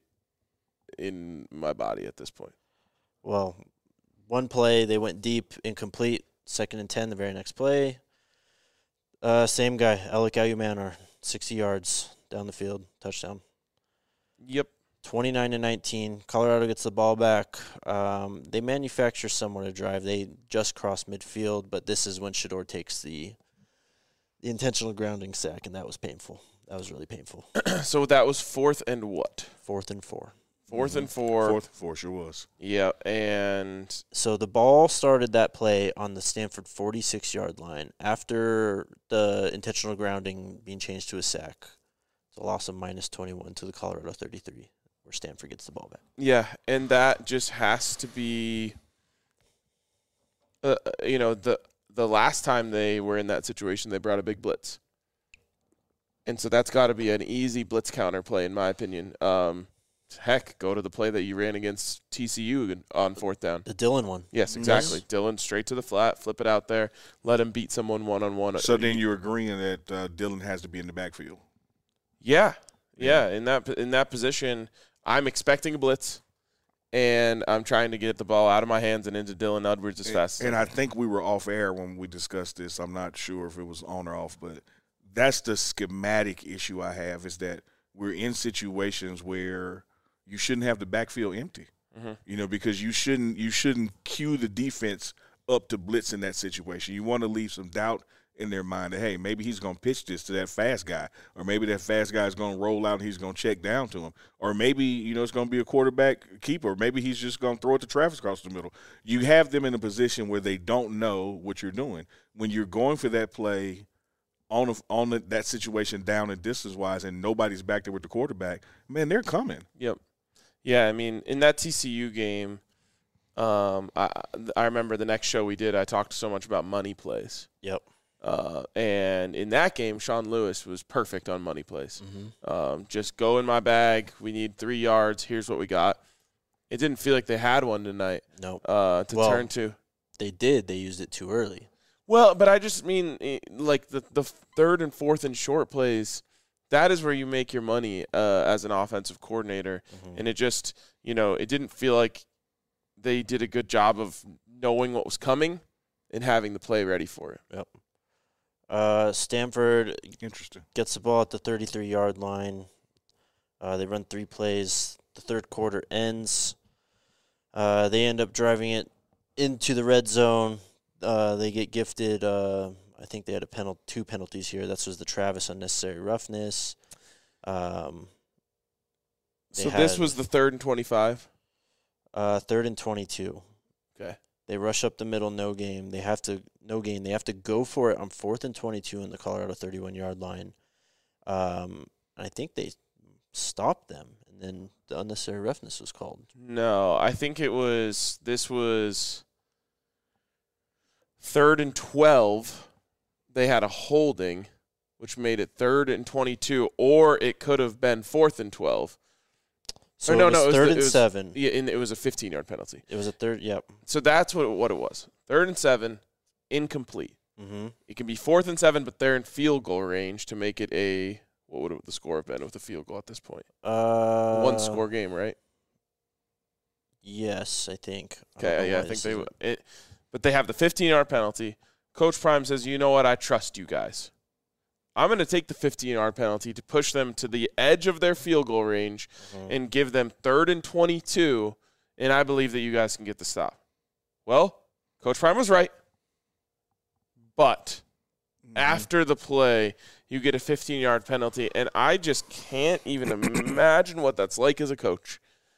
Speaker 2: in my body at this point.
Speaker 1: Well, one play, they went deep, incomplete. 2nd and 10, the very next play. Same guy, Elik Ayumanor, 60 yards down the field, touchdown.
Speaker 2: Yep.
Speaker 1: 29-19. Colorado gets the ball back. They manufacture somewhat a drive. They just cross midfield, but this is when Shedeur takes the intentional grounding sack, and that was painful. That was really painful.
Speaker 2: So that was 4th and what?
Speaker 1: 4th and 4.
Speaker 2: 4th and 4.
Speaker 3: 4th and 4 sure was.
Speaker 2: Yeah, and
Speaker 1: so the ball started that play on the Stanford 46-yard line after the intentional grounding being changed to a sack. It's a loss of -21 to the Colorado 33, where Stanford gets the ball back.
Speaker 2: Yeah, and that just has to be, the last time they were in that situation, they brought a big blitz. And so that's got to be an easy blitz counter play, in my opinion. Heck, go to the play that you ran against TCU on 4th down.
Speaker 1: The Dillon one.
Speaker 2: Yes, exactly.
Speaker 1: Yes.
Speaker 2: Dillon straight to the flat, flip it out there, let him beat someone one-on-one.
Speaker 3: So then you're agreeing that Dillon has to be in the backfield.
Speaker 2: Yeah. In that position, I'm expecting a blitz, and I'm trying to get the ball out of my hands and into Dylan Edwards as fast as
Speaker 3: And I think we were off air when we discussed this. I'm not sure if it was on or off, but that's the schematic issue I have, is that we're in situations where you shouldn't have the backfield empty. Because you shouldn't cue the defense up to blitz in that situation. You want to leave some doubt in their mind that, hey, maybe he's going to pitch this to that fast guy, or maybe that fast guy is going to roll out and he's going to check down to him, or maybe, it's going to be a quarterback keeper. Maybe he's just going to throw it to Travis across the middle. You have them in a position where they don't know what you're doing. When you're going for that play on that situation down and distance-wise and nobody's back there with the quarterback, man, they're coming.
Speaker 2: Yep. Yeah, I mean, in that TCU game, I remember the next show we did, I talked so much about money plays.
Speaker 1: Yep.
Speaker 2: And in that game, Sean Lewis was perfect on money plays. Just go in my bag. We need 3 yards. Here's what we got. It didn't feel like they had one tonight.
Speaker 1: No.
Speaker 2: Turn to.
Speaker 1: They did. They used it too early.
Speaker 2: Well, but I just mean like the 3rd and 4th and short plays. That is where you make your money as an offensive coordinator. And it just, it didn't feel like they did a good job of knowing what was coming and having the play ready for it.
Speaker 1: Yep. Stanford
Speaker 3: gets
Speaker 1: the ball at the 33-yard line. They run 3 plays. The 3rd quarter ends. They end up driving it into the red zone. They get gifted. I think they had 2 penalties here. That was the Travis unnecessary roughness.
Speaker 2: This was the 3rd and 25.
Speaker 1: 3rd and 22.
Speaker 2: Okay.
Speaker 1: They rush up the middle, no gain. They have to go for it on 4th and 22 in the Colorado 31-yard line. I think they stopped them, and then the unnecessary roughness was called.
Speaker 2: No, I think this was 3rd and 12. They had a holding, which made it 3rd and 22, or it could have been 4th and 12.
Speaker 1: So
Speaker 2: no,
Speaker 1: it was
Speaker 2: it was
Speaker 1: 3rd and 7.
Speaker 2: Yeah, and it was a 15-yard penalty.
Speaker 1: It was a third, yep.
Speaker 2: So that's what it was. 3rd and 7, incomplete.
Speaker 1: Mm-hmm.
Speaker 2: It can be 4th and 7, but they're in field goal range to make it a – what would the score have been with a field goal at this point? One-score game, right?
Speaker 1: Yes, I think.
Speaker 2: Okay, yeah, I think they would. But they have the 15-yard penalty. Coach Prime says, you know what, I trust you guys. I'm going to take the 15-yard penalty to push them to the edge of their field goal range and give them 3rd and 22, and I believe that you guys can get the stop. Well, Coach Prime was right, but after the play, you get a 15-yard penalty, and I just can't even imagine what that's like as a coach.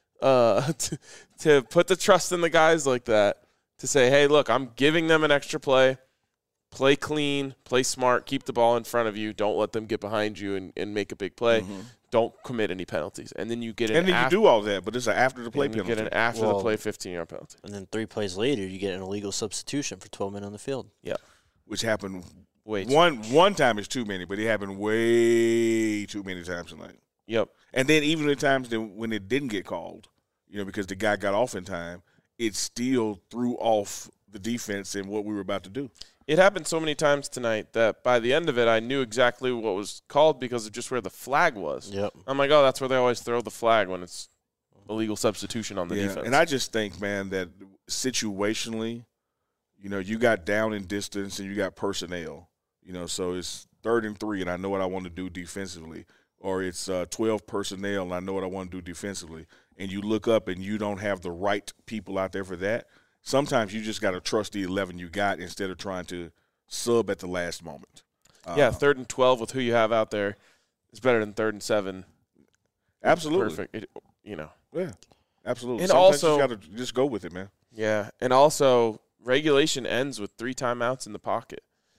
Speaker 2: To put the trust in the guys like that, to say, hey, look, I'm giving them an extra play. Play clean, play smart, keep the ball in front of you. Don't let them get behind you and make a big play. Don't commit any penalties. And then you get an
Speaker 3: you do all that, but it's an after-the-play penalty.
Speaker 2: You get an after-the-play 15-yard penalty.
Speaker 1: And then 3 plays later, you get an illegal substitution for 12 men on the field.
Speaker 2: Yeah.
Speaker 3: Which happened
Speaker 2: way
Speaker 3: one time is too many, but it happened way too many times tonight.
Speaker 2: Yep.
Speaker 3: And then even the times when it didn't get called, because the guy got off in time, it still threw off the defense and what we were about to do.
Speaker 2: It happened so many times tonight that by the end of it, I knew exactly what was called because of just where the flag was.
Speaker 1: Yep.
Speaker 2: I'm like, oh, that's where they always throw the flag when it's illegal substitution on the defense.
Speaker 3: And I just think, man, that situationally, you got down in distance and you got personnel. So it's 3rd and 3, and I know what I want to do defensively. Or it's 12 personnel, and I know what I want to do defensively. And you look up and you don't have the right people out there for that. Sometimes you just got to trust the 11 you got instead of trying to sub at the last moment.
Speaker 2: 3rd and 12 with who you have out there is better than 3rd and 7.
Speaker 3: Absolutely.
Speaker 2: Perfect. Yeah,
Speaker 3: absolutely.
Speaker 2: And
Speaker 3: Sometimes
Speaker 2: also,
Speaker 3: you got to just go with it, man.
Speaker 2: Yeah, and also regulation ends with 3 timeouts in the pocket.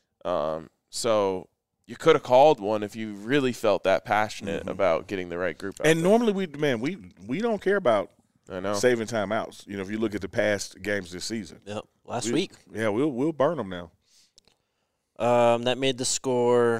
Speaker 2: So you could have called one if you really felt that passionate about getting the right group out
Speaker 3: And
Speaker 2: there.
Speaker 3: normally we don't care about saving timeouts. If you look at the past games this season.
Speaker 1: Yep. Last week.
Speaker 3: Yeah, we'll burn them now.
Speaker 1: That made the score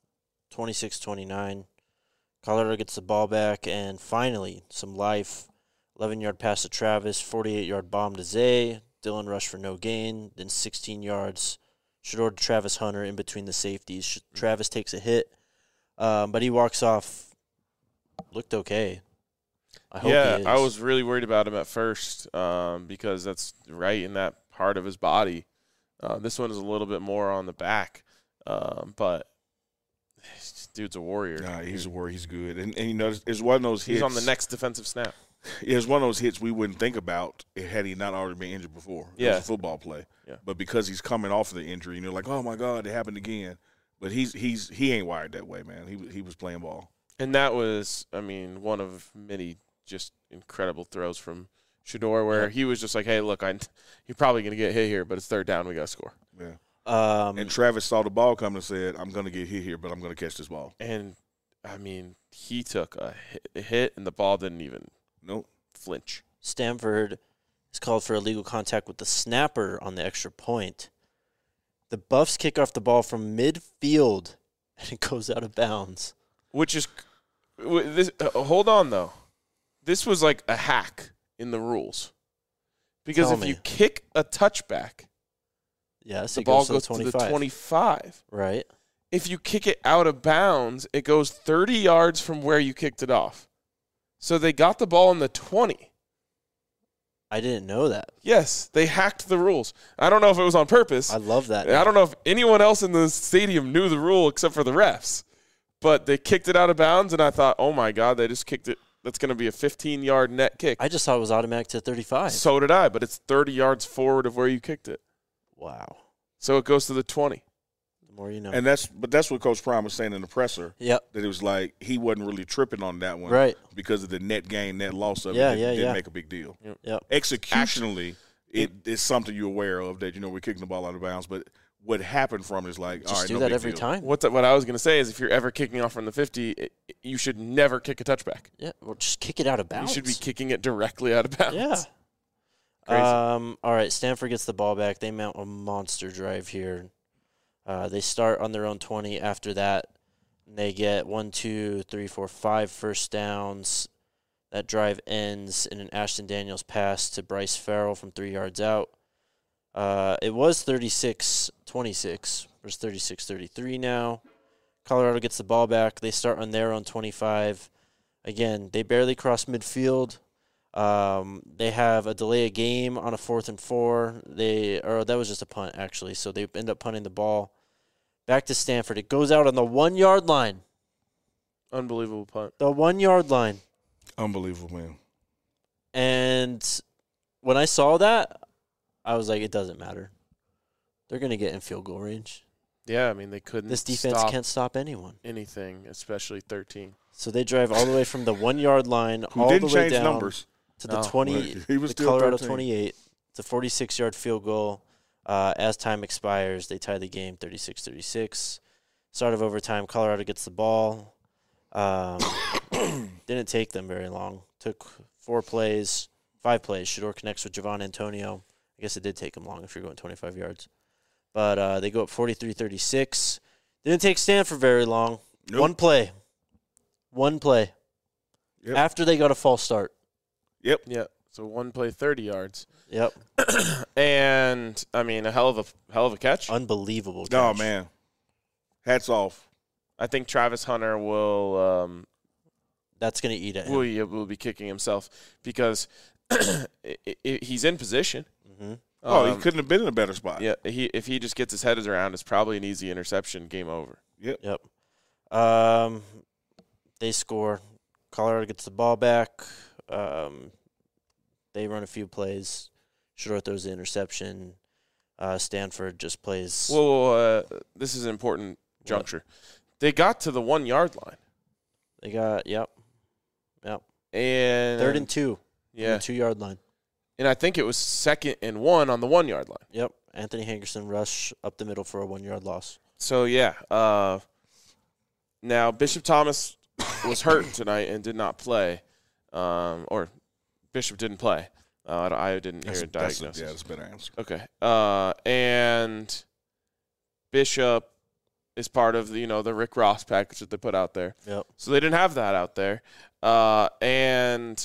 Speaker 1: 26-29. Colorado gets the ball back, and finally some life. 11-yard pass to Travis, 48-yard bomb to Zay. Dylan rushed for no gain, then 16 yards. Shador to Travis Hunter in between the safeties. Travis takes a hit, but he walks off. Looked okay. I hope he is.
Speaker 2: I was really worried about him at first because that's right in that part of his body. This one is a little bit more on the back, but dude's a warrior.
Speaker 3: Nah, he's a warrior. He's good. And it's one of those hits.
Speaker 2: He's on the next defensive snap.
Speaker 3: Yeah, it's one of those hits we wouldn't think about had he not already been injured before. It was a football play.
Speaker 2: Yeah.
Speaker 3: But because he's coming off of the injury, and you're like, oh, my God, it happened again. But he ain't wired that way, man. He was playing ball.
Speaker 2: And that was, one of many just incredible throws from Shador where he was just like, hey, look, you're probably going to get hit here, but it's 3rd down. We got to score.
Speaker 3: Yeah. And Travis saw the ball come and said, I'm going to get hit here, but I'm going to catch this ball.
Speaker 2: And, he took a hit, and the ball didn't even flinch.
Speaker 1: Stanford is called for illegal contact with the snapper on the extra point. The Buffs kick off the ball from midfield, and it goes out of bounds.
Speaker 2: Which is this. Hold on, though. This was like a hack in the rules. Because if you kick a touchback, the ball goes to the 25.
Speaker 1: Right.
Speaker 2: If you kick it out of bounds, it goes 30 yards from where you kicked it off. So they got the ball in the 20.
Speaker 1: I didn't know that.
Speaker 2: Yes, they hacked the rules. I don't know if it was on purpose.
Speaker 1: I love that.
Speaker 2: I don't know if anyone else in the stadium knew the rule except for the refs. But they kicked it out of bounds, and I thought, oh, my God, they just kicked it. That's going to be a 15-yard net kick.
Speaker 1: I just thought it was automatic to 35.
Speaker 2: So did I, but it's 30 yards forward of where you kicked it.
Speaker 1: Wow.
Speaker 2: So it goes to the 20.
Speaker 1: The more you know.
Speaker 3: And that's what Coach Prime was saying in the presser.
Speaker 1: Yep.
Speaker 3: That it was like he wasn't really tripping on that one,
Speaker 1: Right.
Speaker 3: Because of the net gain, net loss of
Speaker 1: Yeah,
Speaker 3: it.
Speaker 1: yeah,
Speaker 3: Didn't
Speaker 1: yeah.
Speaker 3: make a big deal.
Speaker 1: Yep.
Speaker 3: Executionally, it is something you're aware of that we're kicking the ball out of bounds, but what happened from it is like, all
Speaker 1: Just
Speaker 3: right,
Speaker 1: do
Speaker 3: no
Speaker 1: that
Speaker 3: big
Speaker 1: every
Speaker 3: deal.
Speaker 1: time.
Speaker 2: What I was going to say is if you're ever kicking off from the 50, you should never kick a touchback.
Speaker 1: Yeah. Well, just kick it out of bounds.
Speaker 2: You should be kicking it directly out of bounds.
Speaker 1: Yeah.
Speaker 2: Crazy.
Speaker 1: All right. Stanford gets the ball back. They mount a monster drive here. They start on their own 20. After that, they get 1, 2, 3, 4, 5 first downs. That drive ends in an Ashton Daniels pass to Bryce Farrell from 3 yards out. It was 36-26 versus 36-33 now. Colorado gets the ball back. They start on their own 25. Again, they barely cross midfield. They have a delay of game on a 4th and 4. That was just a punt, actually. So they end up punting the ball back to Stanford. It goes out on the 1-yard line.
Speaker 2: Unbelievable punt.
Speaker 1: The 1-yard line.
Speaker 3: Unbelievable, man.
Speaker 1: And when I saw that, I was like, it doesn't matter. They're going to get in field goal range.
Speaker 2: Yeah, I mean, they couldn't
Speaker 1: This defense
Speaker 2: stop
Speaker 1: can't stop anyone.
Speaker 2: anything, especially 13.
Speaker 1: So they drive all the way from the 1-yard line
Speaker 3: Who
Speaker 1: all the
Speaker 3: didn't
Speaker 1: way
Speaker 3: change
Speaker 1: down
Speaker 3: numbers.
Speaker 1: to the
Speaker 2: No.
Speaker 1: 20,
Speaker 3: He was
Speaker 1: the
Speaker 3: still
Speaker 1: Colorado
Speaker 3: 13.
Speaker 1: 28. It's a 46-yard field goal. As time expires, they tie the game 36-36. Start of overtime, Colorado gets the ball. Didn't take them very long. Took 5 plays. Shador connects with Javon Antonio. I guess it did take them long if you're going 25 yards. But they go up 43-36. Didn't take Stanford very long.
Speaker 3: Nope.
Speaker 1: One play.
Speaker 3: Yep.
Speaker 1: After they got a false start.
Speaker 3: Yep.
Speaker 2: Yeah, so one play, 30 yards.
Speaker 1: Yep.
Speaker 2: And, I mean, a hell of a catch.
Speaker 1: Unbelievable catch.
Speaker 3: Oh, man. Hats off.
Speaker 2: I think Travis Hunter will
Speaker 1: That's going to eat at him.
Speaker 2: will be kicking himself because he's in position.
Speaker 1: Mm-hmm.
Speaker 3: He couldn't have been in a better spot.
Speaker 2: Yeah, if he just gets his head around, it's probably an easy interception. Game over.
Speaker 1: Yep. They score. Colorado gets the ball back. They run a few plays. Shador throws the interception. Stanford just plays.
Speaker 2: Well, this is an important juncture. They got to the 1-yard line.
Speaker 1: They got, yep.
Speaker 2: And
Speaker 1: 3rd and 2.
Speaker 2: Yeah.
Speaker 1: On the 2-yard line.
Speaker 2: And I think it was 2nd and 1 on the 1-yard line.
Speaker 1: Yep. Anthony Hankerson rush up the middle for a 1-yard loss.
Speaker 2: So, yeah. Now, Bishop Thomas was hurt tonight and did not play. Or Bishop didn't play. I didn't hear a diagnosis.
Speaker 3: That's a better answer.
Speaker 2: Okay. And Bishop is part of the Rick Ross package that they put out there.
Speaker 1: Yep.
Speaker 2: So they didn't have that out there. And,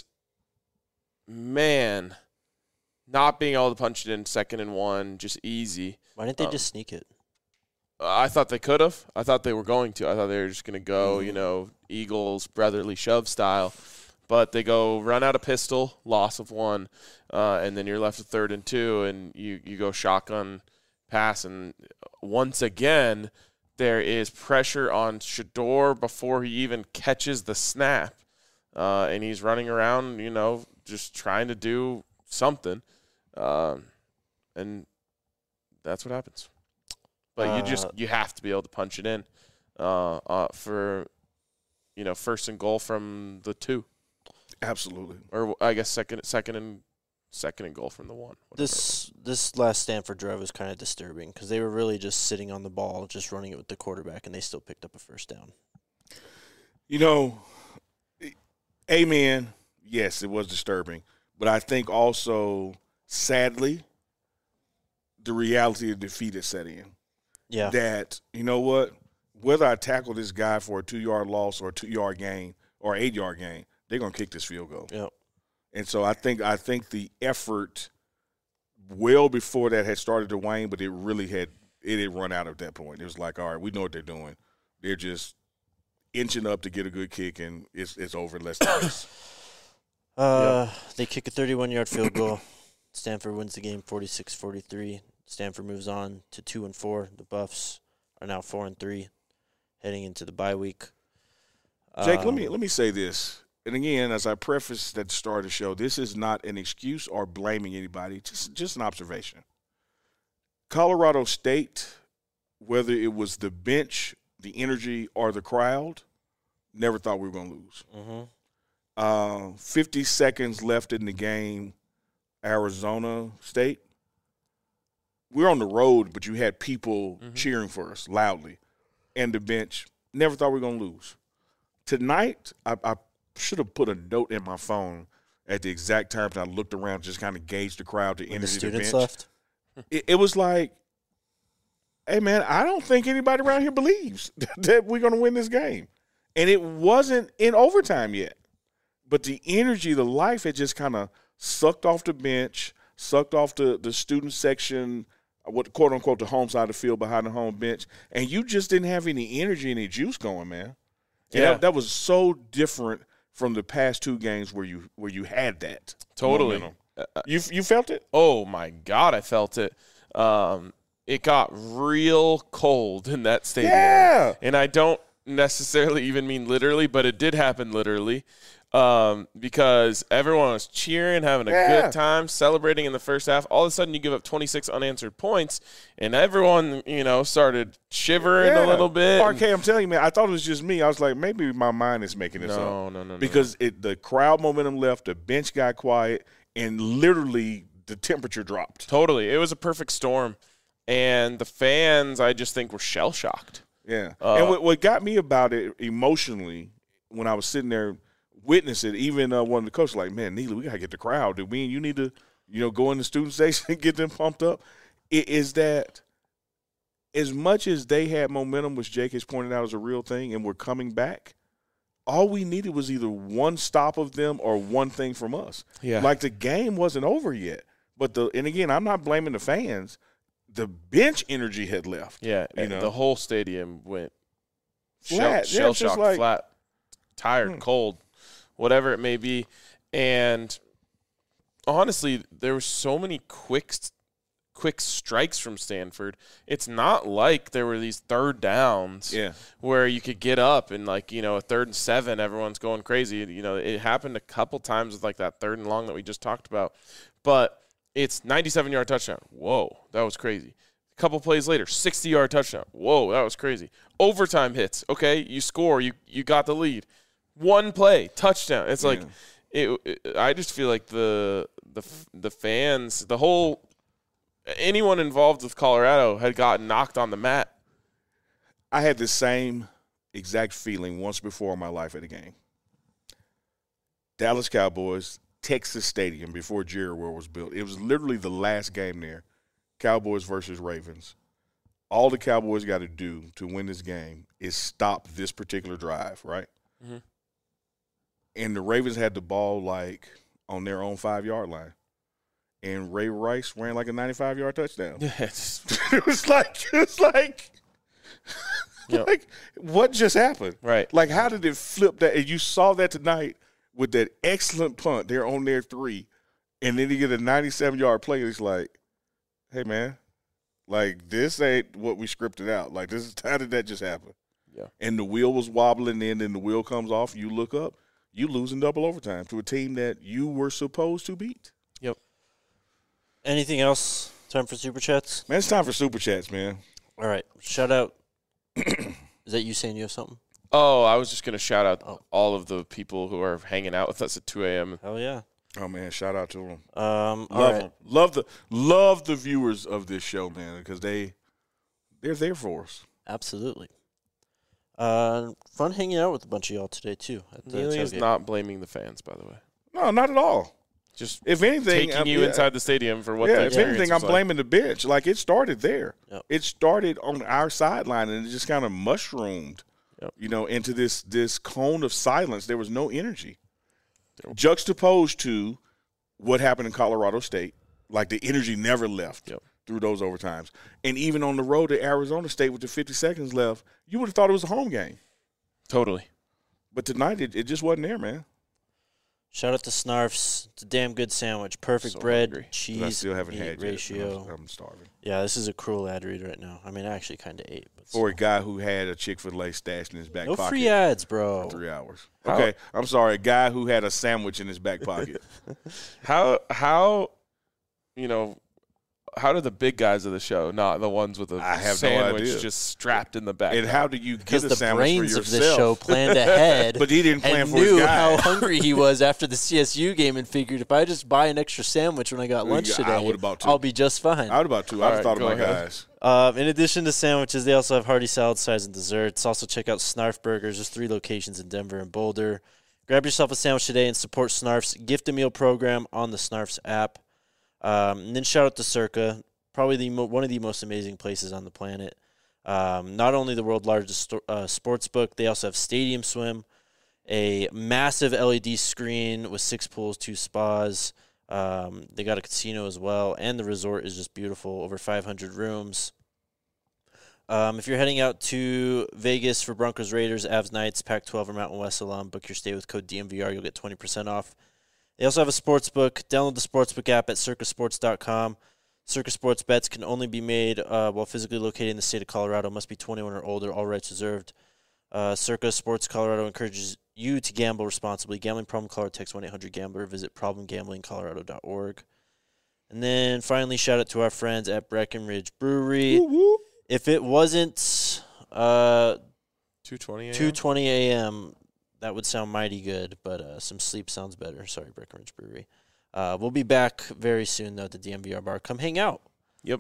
Speaker 2: man, not being able to punch it in 2nd and 1, just easy.
Speaker 1: Why didn't they just sneak it?
Speaker 2: I thought they could have. I thought they were going to. I thought they were just going to go, Eagles brotherly shove style. But they go run out a pistol, loss of 1, and then you're left with 3rd and 2, and you go shotgun pass. And once again, there is pressure on Shador before he even catches the snap. And he's running around, just trying to do something. And that's what happens. But you have to be able to punch it in for, 1st and goal from the 2.
Speaker 3: Absolutely.
Speaker 2: Or I guess second and goal from the 1.
Speaker 1: This last Stanford drive was kind of disturbing because they were really just sitting on the ball, just running it with the quarterback, and they still picked up a first down.
Speaker 3: Amen. Yes, it was disturbing. But I think also, sadly, the reality of defeat is set in.
Speaker 1: Yeah.
Speaker 3: That, whether I tackle this guy for a 2-yard loss or a 2-yard gain or 8-yard gain, they're going to kick this field goal.
Speaker 1: Yep.
Speaker 3: And so I think the effort well before that had started to wane, but it had run out at that point. It was like, all right, we know what they're doing. They're just inching up to get a good kick, and it's over in less than this.
Speaker 1: They kick a 31-yard field goal. Stanford wins the game 46-43. Stanford moves on to 2-4. The Buffs are now 4-3, heading into the bye week.
Speaker 3: Jake, let me say this. And again, as I prefaced at the start of the show, this is not an excuse or blaming anybody, just an observation. Colorado State whether it was the bench, the energy, or the crowd, never thought we were going to lose.
Speaker 1: Mm-hmm.
Speaker 3: 50 seconds left in the game, Arizona State. We're on the road, but you had people cheering for us loudly. And the bench, never thought we were going to lose. Tonight, I should have put a note in my phone at the exact time that I looked around, just kind of gauged the crowd, the energy,
Speaker 1: The students
Speaker 3: bench.
Speaker 1: left.
Speaker 3: It was like, hey, man, I don't think anybody around here believes that we're going to win this game. And it wasn't in overtime yet. But the energy, the life had just kind of sucked off the bench, sucked off the student section, what quote unquote the home side of the field behind the home bench, and you just didn't have any energy, any juice going, man. And
Speaker 2: Yeah.
Speaker 3: that was so different from the past two games where you had that.
Speaker 2: Totally.
Speaker 3: momentum. You felt it?
Speaker 2: Oh my God, I felt it. It got real cold in that stadium.
Speaker 3: Yeah.
Speaker 2: And I don't necessarily even mean literally, but it did happen literally. Because everyone was cheering, having a good time, celebrating in the first half. All of a sudden, you give up 26 unanswered points, and everyone, started shivering a little bit.
Speaker 3: RK, I'm telling you, man, I thought it was just me. I was like, maybe my mind is making this up.
Speaker 2: No.
Speaker 3: Because the crowd momentum left, the bench got quiet, and literally the temperature dropped.
Speaker 2: Totally. It was a perfect storm. And the fans, I just think, were shell-shocked.
Speaker 3: Yeah. And what got me about it emotionally, when I was sitting there witness it, even one of the coaches like, man, Neely, we got to get the crowd. Dude, we and you need to, go in the student section and get them pumped up. It is that as much as they had momentum, which Jake has pointed out is a real thing, and we're coming back, all we needed was either one stop of them or one thing from us.
Speaker 2: Yeah.
Speaker 3: Like the game wasn't over yet. But and again, I'm not blaming the fans. The bench energy had left.
Speaker 2: Yeah. The whole stadium went
Speaker 3: Flat.
Speaker 2: shell-shocked,
Speaker 3: like,
Speaker 2: flat, tired, cold, whatever it may be. And honestly, there were so many quick strikes from Stanford. It's not like there were these third downs where you could get up and, a 3rd and 7, everyone's going crazy. It happened a couple times with, that 3rd and long that we just talked about. But it's 97-yard touchdown. Whoa, that was crazy. A couple plays later, 60-yard touchdown. Whoa, that was crazy. Overtime hits. Okay, you score. You got the lead. One play, touchdown. It's like I just feel like the fans, the whole anyone involved with Colorado had gotten knocked on the mat.
Speaker 3: I had the same exact feeling once before in my life at a game. Dallas Cowboys, Texas Stadium before Jerry World was built. It was literally the last game there. Cowboys versus Ravens. All the Cowboys got to do to win this game is stop this particular drive, right?
Speaker 2: Mm-hmm.
Speaker 3: And the Ravens had the ball on their own 5-yard line. And Ray Rice ran a 95-yard touchdown.
Speaker 2: Yes.
Speaker 3: It was like what just happened?
Speaker 2: Right.
Speaker 3: How did it flip that? And you saw that tonight with that excellent punt. They're on their 3. And then you get a 97-yard play. It's like, hey, man, this ain't what we scripted out. How did that just happen?
Speaker 2: Yeah.
Speaker 3: And the wheel was wobbling in, and the wheel comes off. You look up. You lose in double overtime to a team that you were supposed to beat.
Speaker 2: Yep.
Speaker 1: Anything else? Time for Super Chats?
Speaker 3: Man, it's time for Super Chats, man.
Speaker 1: All right. Shout out. Is that you saying you have something?
Speaker 2: Oh, I was just going to shout out all of the people who are hanging out with us at 2 a.m.
Speaker 1: Hell yeah.
Speaker 3: Oh, man, shout out to them.
Speaker 1: Love
Speaker 3: them. Love the viewers of this show, man, because they're there for us.
Speaker 1: Absolutely. Fun hanging out with a bunch of y'all today, too.
Speaker 2: Neely is not blaming the fans, by the way.
Speaker 3: No, not at all.
Speaker 2: Just
Speaker 3: if anything,
Speaker 2: taking you inside the stadium for what.
Speaker 3: If anything, I'm blaming the bench. It started there.
Speaker 1: Yep.
Speaker 3: It started on our sideline, and it just kind of mushroomed, into this cone of silence. There was no energy. Juxtaposed to what happened in Colorado State, the energy never left through those overtimes. And even on the road to Arizona State with the 50 seconds left, you would have thought it was a home game.
Speaker 2: Totally.
Speaker 3: But tonight, it just wasn't there, man.
Speaker 1: Shout out to Snarfs. It's a damn good sandwich. Perfect bread,
Speaker 3: hungry.
Speaker 1: cheese,
Speaker 3: I still haven't
Speaker 1: meat
Speaker 3: had
Speaker 1: ratio.
Speaker 3: Yet. I'm starving.
Speaker 1: Yeah, this is a cruel ad read right now. I mean, I actually kind of ate. But
Speaker 3: for a guy who had a Chick-fil-A stashed in his back pocket.
Speaker 1: No free ads, bro.
Speaker 3: For 3 hours. Okay, I'm sorry. A guy who had a sandwich in his back pocket.
Speaker 2: How do the big guys of the show, not the ones with a
Speaker 3: I have no
Speaker 2: sandwich
Speaker 3: idea.
Speaker 2: just strapped in the back?
Speaker 3: And how do you get
Speaker 1: Because
Speaker 3: a
Speaker 1: the
Speaker 3: sandwich
Speaker 1: brains
Speaker 3: for
Speaker 1: of
Speaker 3: yourself?
Speaker 1: this show planned ahead.
Speaker 3: But he didn't plan
Speaker 1: and
Speaker 3: for his
Speaker 1: knew
Speaker 3: guy.
Speaker 1: how hungry he was after the CSU game and figured if I just buy an extra sandwich when I got lunch
Speaker 3: I
Speaker 1: today,
Speaker 3: would've bought two.
Speaker 1: I'll be just fine.
Speaker 3: I would about to. I'd have thought of my guys.
Speaker 1: In addition to sandwiches, they also have hearty salad sides and desserts. Also, check out Snarf Burgers. There's 3 locations in Denver and Boulder. Grab yourself a sandwich today and support Snarf's gift a meal program on the Snarf's app. And then shout out to Circa, probably one of the most amazing places on the planet. Not only the world's largest sports book, they also have Stadium Swim, a massive LED screen with 6 pools, 2 spas. They got a casino as well, and the resort is just beautiful, over 500 rooms. If you're heading out to Vegas for Broncos, Raiders, Avs, Knights, Pac-12, or Mountain West alum, book your stay with code DMVR. You'll get 20% off. They also have a sportsbook. Download the sportsbook app at circasports.com. Circa Sports bets can only be made while physically located in the state of Colorado. Must be 21 or older. All rights reserved. Circa Sports Colorado encourages you to gamble responsibly. Gambling problem? Call or text 1-800-GAMBLER. Visit problemgamblingcolorado.org. And then finally, shout out to our friends at Breckenridge Brewery.
Speaker 3: Woo-woo.
Speaker 1: If it wasn't
Speaker 2: 2:20 a.m.
Speaker 1: 2:20 a.m., that would sound mighty good, but some sleep sounds better. Sorry, Breckenridge Brewery. We'll be back very soon, though, at the DMVR bar. Come hang out.
Speaker 2: Yep.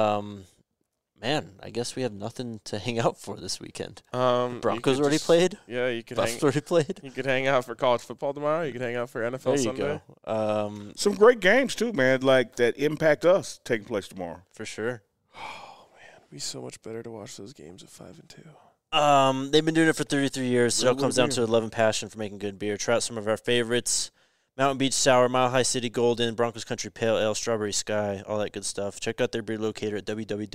Speaker 1: Man, I guess we have nothing to hang out for this weekend.
Speaker 2: You
Speaker 1: Broncos
Speaker 2: could
Speaker 1: already
Speaker 2: just-
Speaker 1: played.
Speaker 2: Yeah, you could
Speaker 1: Buffs already played.
Speaker 2: You could hang out for college football tomorrow. You could hang out for NFL
Speaker 1: There you
Speaker 2: Sunday.
Speaker 1: go.
Speaker 3: Some great games too, man. Like that impact us taking place tomorrow.
Speaker 1: For sure.
Speaker 2: It'd be so much better to watch those games at 5 and 2.
Speaker 1: They've been doing it for 33 years. It all
Speaker 3: Real
Speaker 1: comes
Speaker 3: good
Speaker 1: down to love and passion for making good beer. Try out some of our favorites. Mountain Beach Sour, Mile High City Golden, Broncos Country Pale Ale, Strawberry Sky, all that good stuff. Check out their beer locator at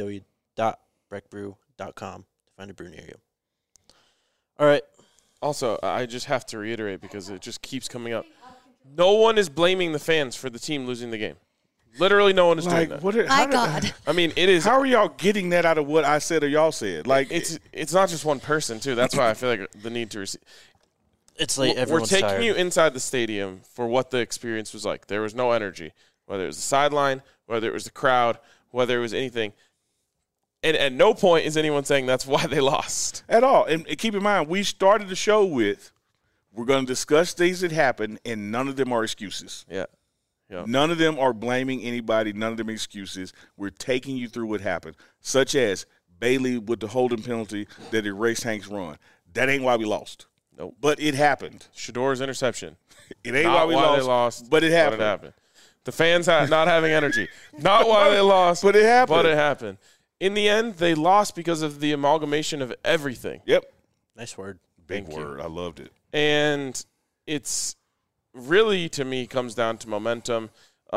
Speaker 1: www.breckbrew.com to find a brew near you. All right.
Speaker 2: Also, I just have to reiterate because it just keeps coming up. No one is blaming the fans for the team losing the game. Literally no one is doing that.
Speaker 6: My God.
Speaker 2: I mean, it is.
Speaker 3: How are y'all getting that out of what I said or y'all said? Like
Speaker 2: It's not just one person, too. That's why I feel like the need to receive.
Speaker 1: It's like
Speaker 2: We're
Speaker 1: everyone's
Speaker 2: taking
Speaker 1: tired.
Speaker 2: you inside the stadium for what the experience was like. There was no energy, whether it was the sideline, whether it was the crowd, whether it was anything. And at no point is anyone saying that's why they lost.
Speaker 3: at all. And keep in mind, we started the show with we're going to discuss things that happened, and none of them are excuses.
Speaker 2: Yeah.
Speaker 3: None of them are blaming anybody. None of them are excuses. We're taking you through what happened, such as Bailey with the holding penalty that erased Hank's run. That ain't why we lost.
Speaker 2: Nope.
Speaker 3: But it happened.
Speaker 2: Shador's interception.
Speaker 3: It ain't
Speaker 2: Not
Speaker 3: why
Speaker 2: they lost,
Speaker 3: but it happened.
Speaker 2: The fans not having energy. Not why they lost,
Speaker 3: But it happened.
Speaker 2: But it happened. In the end, they lost because of the amalgamation of everything.
Speaker 3: Yep.
Speaker 1: Nice word.
Speaker 3: Big
Speaker 2: Thank you.
Speaker 3: word. I loved it.
Speaker 2: And it's really, to me, comes down to momentum.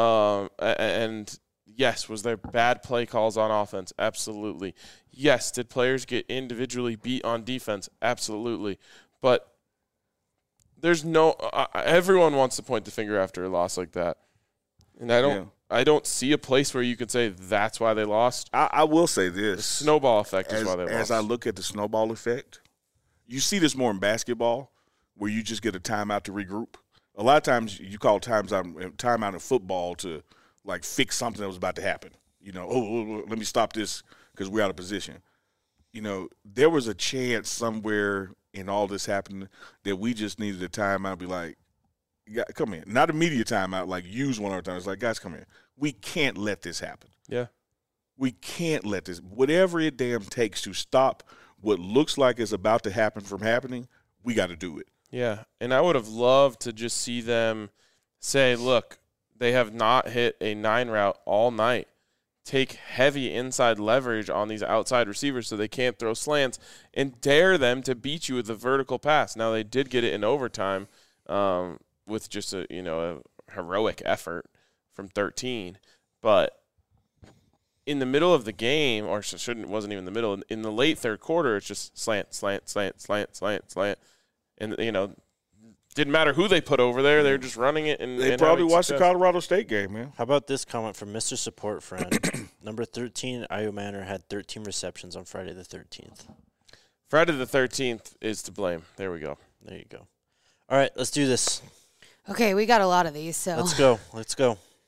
Speaker 2: And yes, was there bad play calls on offense? Absolutely. Yes, did players get individually beat on defense? Absolutely. But there's no everyone wants to point the finger after a loss like that. And I don't see a place where you could say that's why they lost.
Speaker 3: I will say this.
Speaker 2: The snowball effect is why they lost.
Speaker 3: As I look at the snowball effect, you see this more in basketball where you just get a timeout to regroup. A lot of times you call timeout in football to, like, fix something that was about to happen. You know, let me stop this because we're out of position. You know, there was a chance somewhere in all this happening that we just needed a timeout and be like, come in. Not a media timeout, like use one of our times. It's like, guys, come in. We can't let this happen.
Speaker 2: Yeah.
Speaker 3: We can't let this. Whatever it damn takes to stop what looks like is about to happen from happening, we got to do it.
Speaker 2: Yeah, and I would have loved to just see them say, look, they have not hit a 9 route all night. Take heavy inside leverage on these outside receivers so they can't throw slants and dare them to beat you with a vertical pass. Now, they did get it in overtime with just a heroic effort from 13. But in the middle of the game, or wasn't even the middle, in the late third quarter, it's just slant, slant, slant, slant, slant, slant. And, didn't matter who they put over there. They're just running it. And
Speaker 3: probably
Speaker 2: having
Speaker 3: watched the
Speaker 2: success.
Speaker 3: Colorado State game, man.
Speaker 1: How about this comment from Mr. Support Friend? Number 13, Io Manor had 13 receptions on Friday the 13th.
Speaker 2: Friday the 13th is to blame. There we go.
Speaker 1: There you go. All right, let's do this.
Speaker 6: Okay, we got a lot of these, so
Speaker 1: Let's go. Let's go.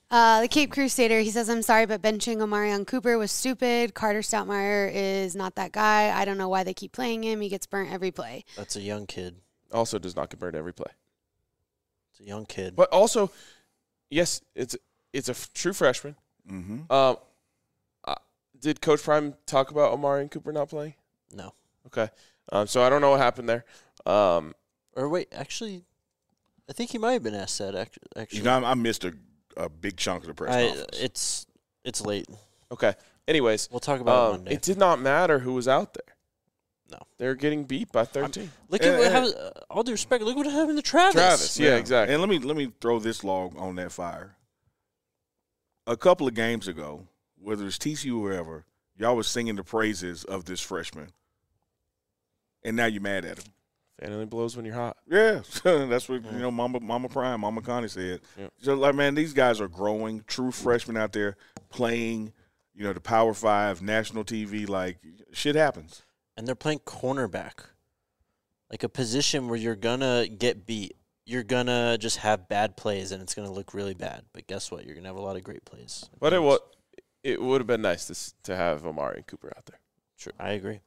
Speaker 6: The Cape Crusader, he says, I'm sorry, but benching Omarion Cooper was stupid. Carter Stoutmeyer is not that guy. I don't know why they keep playing him. He gets burnt every play.
Speaker 1: That's a young kid.
Speaker 2: Also does not get burned every play.
Speaker 1: It's a young kid.
Speaker 2: But also, yes, it's a true freshman.
Speaker 3: Mm-hmm.
Speaker 2: Did Coach Prime talk about Omarion Cooper not playing?
Speaker 1: No.
Speaker 2: Okay. So I don't know what happened there.
Speaker 1: Or wait, actually, I think he might have been asked that. Actually,
Speaker 3: You know, I missed a big chunk of the press conference.
Speaker 1: It's late.
Speaker 2: Okay. Anyways,
Speaker 1: We'll talk about it Monday.
Speaker 2: it did not matter who was out there.
Speaker 1: No.
Speaker 2: They were getting beat by 13.
Speaker 1: Look at what happened. All due respect, look what happened to Travis.
Speaker 2: Travis, yeah, exactly.
Speaker 3: And let me throw this log on that fire. A couple of games ago, whether it's TCU or whoever, y'all was singing the praises of this freshman, and now you're mad at him.
Speaker 2: Fan only blows when you're hot.
Speaker 3: Yeah, that's what Mama Prime, Mama Connie said.
Speaker 2: Yep.
Speaker 3: So like, man, these guys are growing. True freshmen out there playing, the Power 5, national TV. Like, shit happens.
Speaker 1: And they're playing cornerback, like a position where you're gonna get beat. You're gonna just have bad plays, and it's gonna look really bad. But guess what? You're gonna have a lot of great plays.
Speaker 2: But it would have been nice to have Omarion Cooper out there.
Speaker 1: Sure, I agree.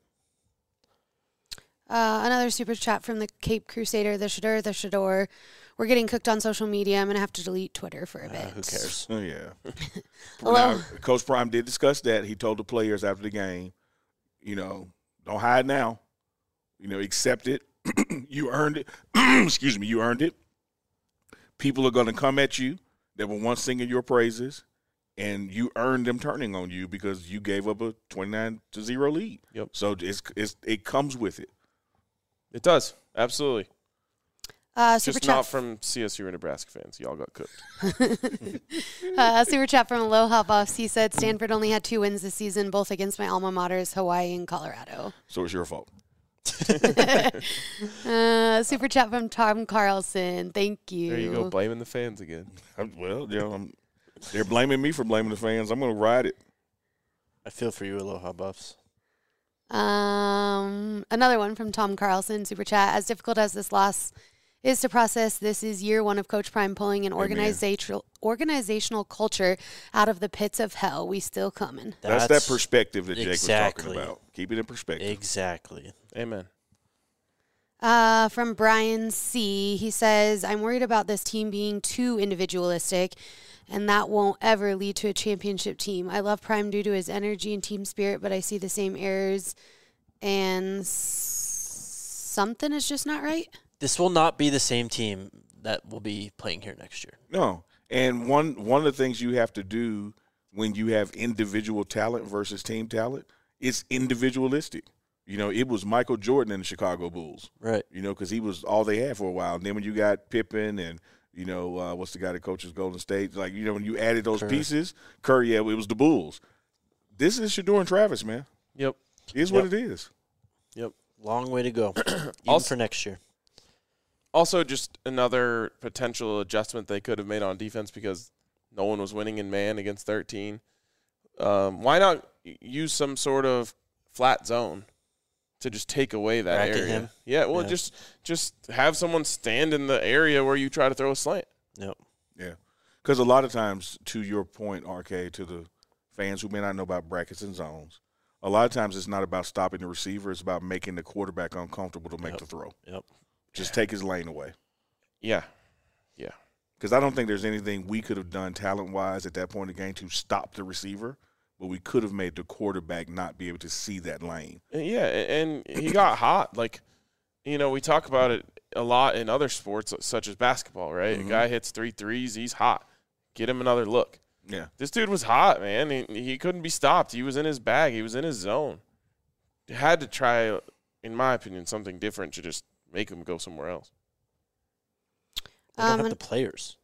Speaker 6: Another super chat from the Cape Crusader, the Shador. We're getting cooked on social media. I'm going to have to delete Twitter for a bit.
Speaker 1: Who cares?
Speaker 3: Oh, yeah.
Speaker 6: Hello?
Speaker 3: Now, Coach Prime did discuss that. He told the players after the game, don't hide now. Accept it. You earned it. Excuse me, you earned it. People are going to come at you that were once singing your praises, and you earned them turning on you because you gave up a 29-0 lead.
Speaker 2: Yep.
Speaker 3: So it comes with it.
Speaker 2: It does. Absolutely.
Speaker 6: Super
Speaker 2: Just
Speaker 6: chat
Speaker 2: not from CSU or Nebraska fans. Y'all got cooked.
Speaker 6: super chat from Aloha Buffs. He said Stanford only had 2 wins this season, both against my alma maters, Hawaii and Colorado.
Speaker 3: So it's your fault.
Speaker 6: Super chat from Tom Carlson. Thank you.
Speaker 2: There you go, blaming the fans again.
Speaker 3: They're blaming me for blaming the fans. I'm going to ride it.
Speaker 1: I feel for you, Aloha Buffs.
Speaker 6: Another one from Tom Carlson, super chat. As difficult as this loss is to process, this is year 1 of Coach Prime pulling an organizational culture out of the pits of hell. We still coming.
Speaker 3: That's that perspective that Jake
Speaker 1: exactly.
Speaker 3: was talking about. Keep it in perspective.
Speaker 1: Exactly.
Speaker 2: Amen.
Speaker 6: From Brian C., he says, I'm worried about this team being too individualistic, and that won't ever lead to a championship team. I love Prime due to his energy and team spirit, but I see the same errors, and something is just not right.
Speaker 1: This will not be the same team that will be playing here next year.
Speaker 3: No. And one of the things you have to do when you have individual talent versus team talent is individualistic. It was Michael Jordan in the Chicago Bulls.
Speaker 1: Right.
Speaker 3: Because he was all they had for a while. And then when you got Pippen and, what's the guy that coaches Golden State? Like, when you added those pieces, Curry, it was the Bulls. This is Shador and Travis, man.
Speaker 2: Yep.
Speaker 3: It is what it is.
Speaker 1: Yep. Long way to go. Even
Speaker 2: Also,
Speaker 1: for next year.
Speaker 2: Also, just another potential adjustment they could have made on defense because no one was winning in man against 13. Why not use some sort of flat zone to just take away that
Speaker 1: Bracket
Speaker 2: area?
Speaker 1: him?
Speaker 2: Yeah, well,
Speaker 1: Yeah.
Speaker 2: just have someone stand in the area where you try to throw a slant.
Speaker 1: Yep.
Speaker 3: Yeah. Because a lot of times, to your point, RK, to the fans who may not know about brackets and zones, a lot of times it's not about stopping the receiver. It's about making the quarterback uncomfortable to make the throw.
Speaker 1: Yep.
Speaker 3: Just take his lane away.
Speaker 2: Yeah.
Speaker 3: Because I don't think there's anything we could have done talent-wise at that point in the game to stop the receiver, but we could have made the quarterback not be able to see that lane.
Speaker 2: Yeah, and he got hot. Like, we talk about it a lot in other sports such as basketball, right?
Speaker 3: Mm-hmm.
Speaker 2: A guy hits 3 threes, he's hot. Get him another look.
Speaker 3: Yeah.
Speaker 2: This dude was hot, man. He couldn't be stopped. He was in his bag. He was in his zone. He had to try, in my opinion, something different to just make him go somewhere else.
Speaker 1: They don't have the players.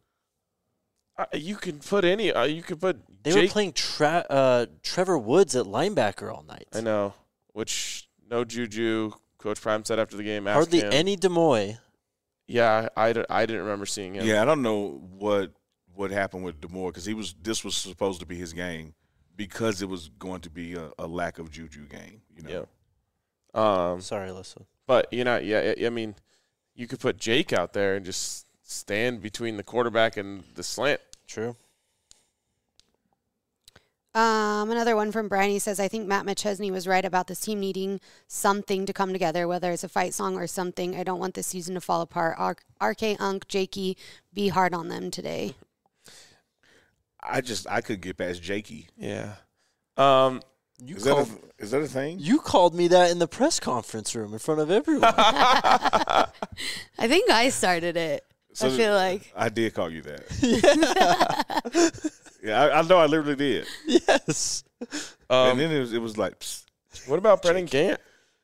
Speaker 2: You could put any. You could put.
Speaker 1: They were playing Trevor Woods at linebacker all night.
Speaker 2: I know. Which no Juju. Coach Prime said after the game.
Speaker 1: Hardly
Speaker 2: him.
Speaker 1: any Demoy.
Speaker 2: Yeah, I didn't remember seeing him.
Speaker 3: Yeah, I don't know what happened with DeMore because this was supposed to be his game because it was going to be a lack of Juju game.
Speaker 2: Yeah.
Speaker 1: Sorry, Alyssa.
Speaker 2: But I mean, you could put Jake out there and just stand between the quarterback and the slant.
Speaker 1: True.
Speaker 6: Another one from Brian. He says, I think Matt McChesney was right about this team needing something to come together, whether it's a fight song or something. I don't want this season to fall apart. RK, Unk, Jakey, be hard on them today.
Speaker 3: I could get past Jakey.
Speaker 2: Yeah.
Speaker 3: Is that a thing?
Speaker 1: You called me that in the press conference room in front of everyone.
Speaker 6: I think I started it. I feel like.
Speaker 3: I did call you that. Yeah, I know I literally did.
Speaker 1: Yes.
Speaker 3: And then it was like, psst,
Speaker 2: What about Brendan Gant?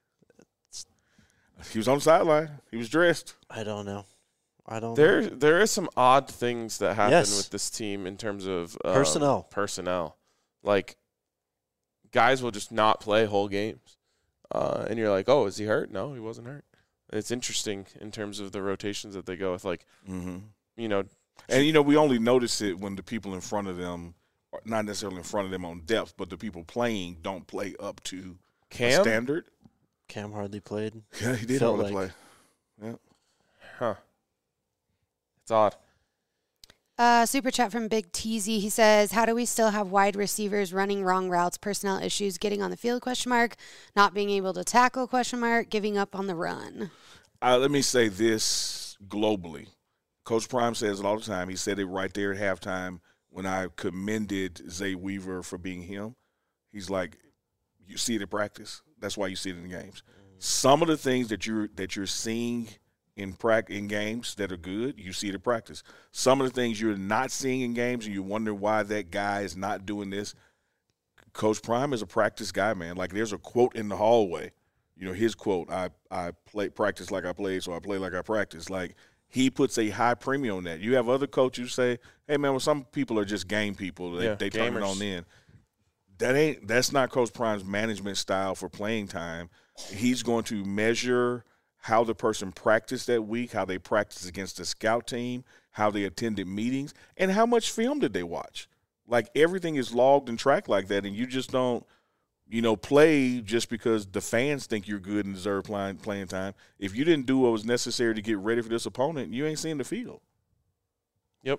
Speaker 3: he was on the sideline. He was dressed.
Speaker 1: I don't know.
Speaker 2: There is some odd things that happen
Speaker 1: Yes.
Speaker 2: with this team in terms of
Speaker 1: Personnel.
Speaker 2: Like, guys will just not play whole games. And you're like, oh, is he hurt? No, he wasn't hurt. It's interesting in terms of the rotations that they go with. Like, you know.
Speaker 3: And, we only notice it when the people in front of them, not necessarily in front of them on depth, but the people playing don't play up to
Speaker 2: Cam?
Speaker 3: standard.
Speaker 1: Cam hardly played.
Speaker 3: Yeah, he did
Speaker 1: Felt
Speaker 3: hardly
Speaker 1: like.
Speaker 3: play. Yeah.
Speaker 2: Huh. It's odd.
Speaker 6: Super chat from Big Teasy. He says, how do we still have wide receivers running wrong routes, personnel issues, getting on the field, ? Not being able to tackle, ? Giving up on the run?
Speaker 3: Let me say this globally. Coach Prime says it all the time. He said it right there at halftime when I commended Zay Weaver for being him. He's like, you see it at practice. That's why you see it in the games. Some of the things that you're seeing in games that are good, you see it at practice. Some of the things you're not seeing in games and you wonder why that guy is not doing this. Coach Prime is a practice guy, man. Like, there's a quote in the hallway. His quote, I practice like I play, so I play like I practice. Like, he puts a high premium on that. You have other coaches say, hey, man, well, some people are just game people. They turn it on in. That's not Coach Prime's management style for playing time. He's going to measure how the person practiced that week, how they practiced against the scout team, how they attended meetings, and how much film did they watch. Like, everything is logged and tracked like that, and you just don't, play just because the fans think you're good and deserve playing time. If you didn't do what was necessary to get ready for this opponent, you ain't seeing the field.
Speaker 2: Yep.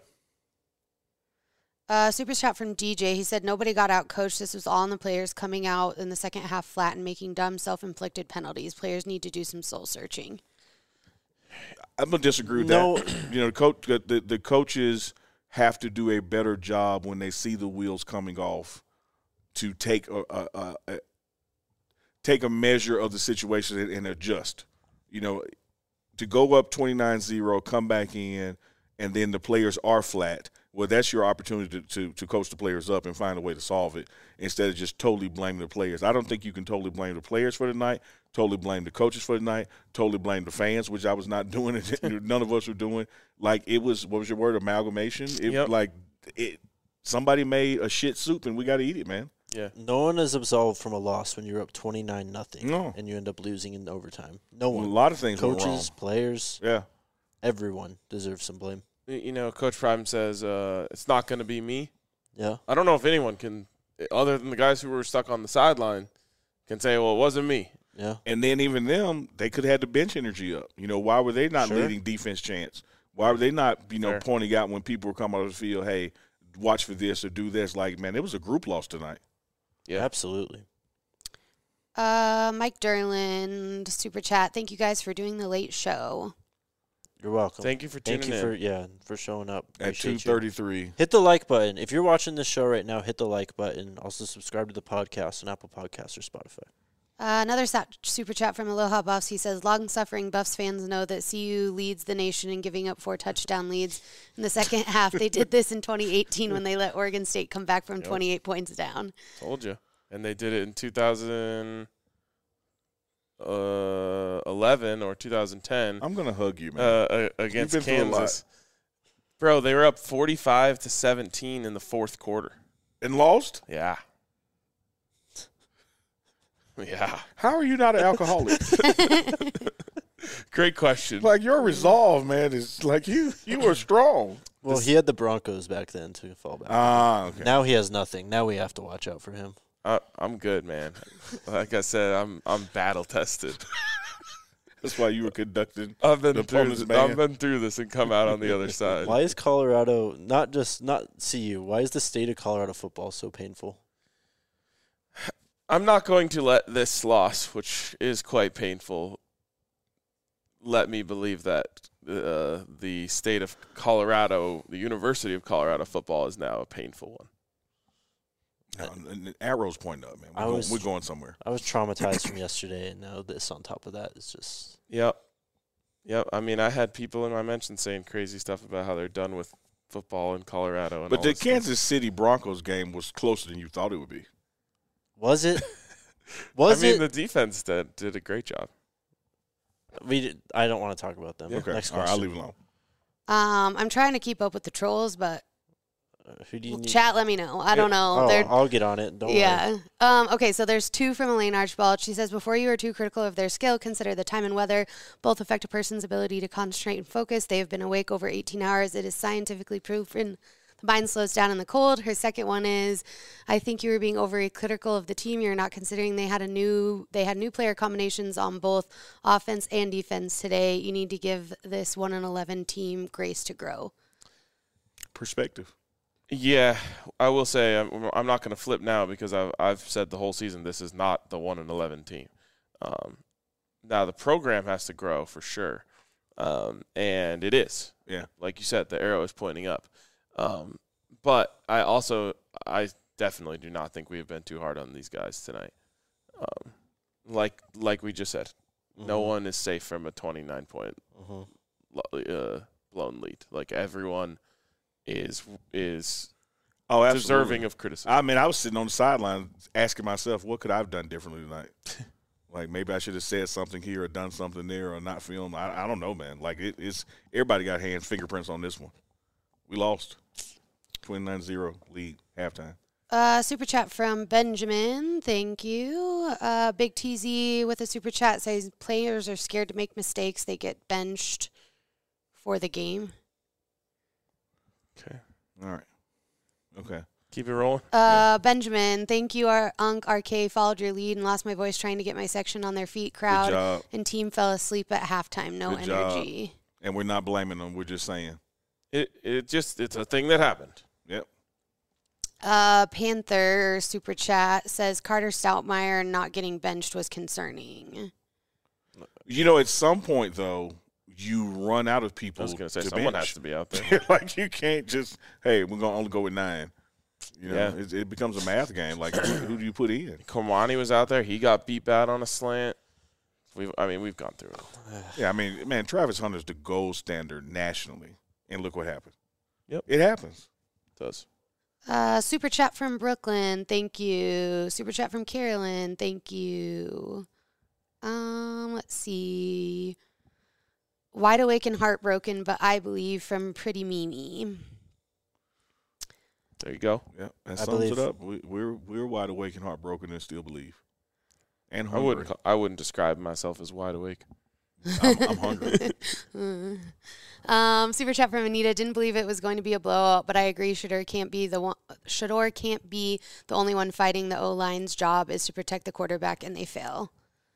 Speaker 6: Super chat from DJ. He said, nobody got out coached. This was all on the players coming out in the second half flat and making dumb self-inflicted penalties. Players need to do some soul searching.
Speaker 3: I'm going to disagree with that. The coaches have to do a better job when they see the wheels coming off to take a measure of the situation and adjust. To go up 29-0, come back in, and then the players are flat. Well, that's your opportunity to coach the players up and find a way to solve it instead of just totally blaming the players. I don't think you can totally blame the players for the night, totally blame the coaches for the night, totally blame the fans, which I was not doing. None of us were doing. Like, it was, what was your word, amalgamation? Somebody made a shit soup, and we got to eat it, man.
Speaker 2: Yeah.
Speaker 1: No one is absolved from a loss when you're up 29-0
Speaker 3: No.
Speaker 1: and you end up losing in overtime. No one.
Speaker 3: A lot of things went wrong.
Speaker 1: Coaches, players,
Speaker 3: Yeah.
Speaker 1: everyone deserves some blame.
Speaker 2: Coach Prime says it's not going to be me.
Speaker 1: Yeah.
Speaker 2: I don't know if anyone can, other than the guys who were stuck on the sideline, can say, well, it wasn't me.
Speaker 1: Yeah.
Speaker 3: And then even them, they could have had the bench energy up. Why were they not leading defense chants? Why were they not, pointing out when people were coming out of the field, hey, watch for this or do this? Like, man, it was a group loss tonight.
Speaker 2: Yeah.
Speaker 1: Absolutely.
Speaker 6: Mike Derland, super chat. Thank you guys for doing the late show.
Speaker 1: You're welcome.
Speaker 2: Thank you for tuning in.
Speaker 1: For showing up.
Speaker 3: At
Speaker 1: Appreciate you.
Speaker 3: 2:33.
Speaker 1: Hit the like button. If you're watching this show right now, hit the like button. Also subscribe to the podcast on Apple Podcasts or Spotify.
Speaker 6: Another super chat from Aloha Buffs. He says, long-suffering Buffs fans know that CU leads the nation in giving up 4 touchdown leads in the second half. They did this in 2018 when they let Oregon State come back from 28 points down.
Speaker 2: Told you. And they did it in 2011 or 2010.
Speaker 3: I'm going to hug you, man.
Speaker 2: Against Kansas. Bro, they were up 45-17 in the fourth quarter.
Speaker 3: And lost?
Speaker 2: Yeah. Yeah.
Speaker 3: How are you not an alcoholic?
Speaker 2: Great question.
Speaker 3: Like, your resolve, man, is like you were strong.
Speaker 1: Well, he had the Broncos back then to fall back.
Speaker 3: Okay.
Speaker 1: Now he has nothing. Now we have to watch out for him.
Speaker 2: I'm good, man. Like I said, I'm battle tested.
Speaker 3: That's why you were conducting.
Speaker 2: I've been through this and come out on the other side.
Speaker 1: Why is Colorado not CU? Why is the state of Colorado football so painful?
Speaker 2: I'm not going to let this loss, which is quite painful, let me believe that the state of Colorado, the University of Colorado football is now a painful one.
Speaker 3: No, arrow's pointing up, man. We're going somewhere.
Speaker 1: I was traumatized from yesterday, and now this on top of that is just.
Speaker 2: Yep. I mean, I had people in my mentions saying crazy stuff about how they're done with football in Colorado. And
Speaker 3: but
Speaker 2: all
Speaker 3: the
Speaker 2: this
Speaker 3: Kansas City Broncos game was closer than you thought it would be.
Speaker 1: Was it?
Speaker 2: The defense did a great job.
Speaker 1: I don't want to talk about them.
Speaker 3: Okay.
Speaker 1: Next
Speaker 3: All right,
Speaker 1: question.
Speaker 3: I'll leave it alone.
Speaker 6: I'm trying to keep up with the trolls, but
Speaker 1: Who do you need?
Speaker 6: chat, let me know. I don't know.
Speaker 1: Oh, I'll get on it. Don't worry.
Speaker 6: Okay, so there's two from Elaine Archibald. She says, before you are too critical of their skill, consider the time and weather. Both affect a person's ability to concentrate and focus. They have been awake over 18 hours. It is scientifically proven the mind slows down in the cold. Her second one is, I think you were being overly critical of the team. You're not considering they had new player combinations on both offense and defense today. You need to give this 1-11 team grace to grow.
Speaker 3: Perspective.
Speaker 2: Yeah, I will say I'm not going to flip now because I've said the whole season this is not the 1-11 team. Now the program has to grow for sure, and it is.
Speaker 3: Yeah,
Speaker 2: like you said, the arrow is pointing up. But I definitely do not think we have been too hard on these guys tonight. Like we just said, no one is safe from a 29-point blown lead. Like everyone is deserving of criticism.
Speaker 3: I mean, I was sitting on the sideline asking myself, what could I have done differently tonight? Like maybe I should have said something here or done something there or not filmed. I don't know, man. Like it's everybody got fingerprints on this one. We lost 29-0 lead halftime.
Speaker 6: Super chat from Benjamin. Thank you. Big TZ with a super chat says players are scared to make mistakes. They get benched for the game.
Speaker 2: Okay.
Speaker 3: All right. Okay.
Speaker 2: Keep it rolling.
Speaker 6: Benjamin, thank you. Our Unk RK followed your lead and lost my voice trying to get my section on their feet. Crowd and team fell asleep at halftime. No
Speaker 3: Good
Speaker 6: energy.
Speaker 3: Job. And we're not blaming them. We're just saying.
Speaker 2: It's a thing that happened.
Speaker 3: Yep.
Speaker 6: Panther super chat says Carter Stoutmeyer not getting benched was concerning.
Speaker 3: You know, at some point though, you run out of people.
Speaker 2: I was going to say
Speaker 3: to
Speaker 2: someone
Speaker 3: bench.
Speaker 2: has to be out there.
Speaker 3: Like you can't just we're going to only go with 9. You know,
Speaker 2: Yeah.
Speaker 3: it becomes a math game. Like who do you put in?
Speaker 2: Kamani was out there. He got beat bad on a slant. We've gone through it.
Speaker 3: Yeah, I mean, man, Travis Hunter's the gold standard nationally, and look what happened.
Speaker 2: Yep,
Speaker 3: it happens.
Speaker 2: It does.
Speaker 6: Super chat from Brooklyn, thank you. Super chat from Carolyn, thank you. Let's see. Wide awake and heartbroken, but I believe from Pretty Mimi.
Speaker 2: There you go.
Speaker 3: Yeah, that sums it up. We're wide awake and heartbroken and still believe. And hungry.
Speaker 2: I wouldn't describe myself as wide awake.
Speaker 3: I'm hungry.
Speaker 6: Super chat from Anita. Didn't believe it was going to be a blowout, but I agree. Shador can't be the only one fighting. The O-line's job is to protect the quarterback, and they fail.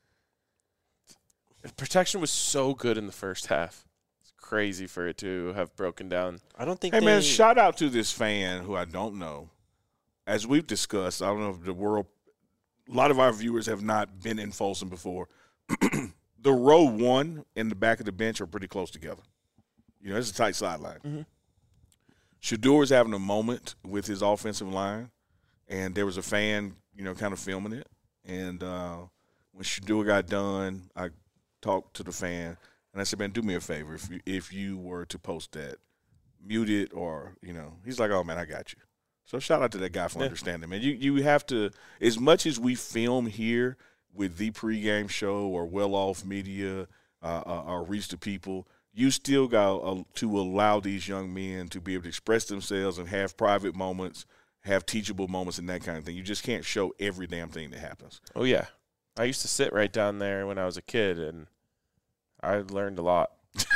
Speaker 2: Protection was so good in the first half. It's crazy for it to have broken down.
Speaker 1: I don't think.
Speaker 3: Hey man, shout out to this fan who I don't know. As we've discussed, I don't know if a lot of our viewers have not been in Folsom before. The row 1 and the back of the bench are pretty close together. You know, it's a tight sideline.
Speaker 2: Mm-hmm.
Speaker 3: Shador's having a moment with his offensive line, and there was a fan, you know, kind of filming it. And when Shador got done, I talked to the fan, and I said, man, do me a favor. If you were to post that, mute it or, you know. He's like, oh, man, I got you. So shout out to that guy for understanding, man. You have to, as much as we film here with the pregame show or well-off media or reach the people, you still got to allow these young men to be able to express themselves and have private moments, have teachable moments and that kind of thing. You just can't show every damn thing that happens.
Speaker 2: Oh, yeah. I used to sit right down there when I was a kid, and I learned a lot.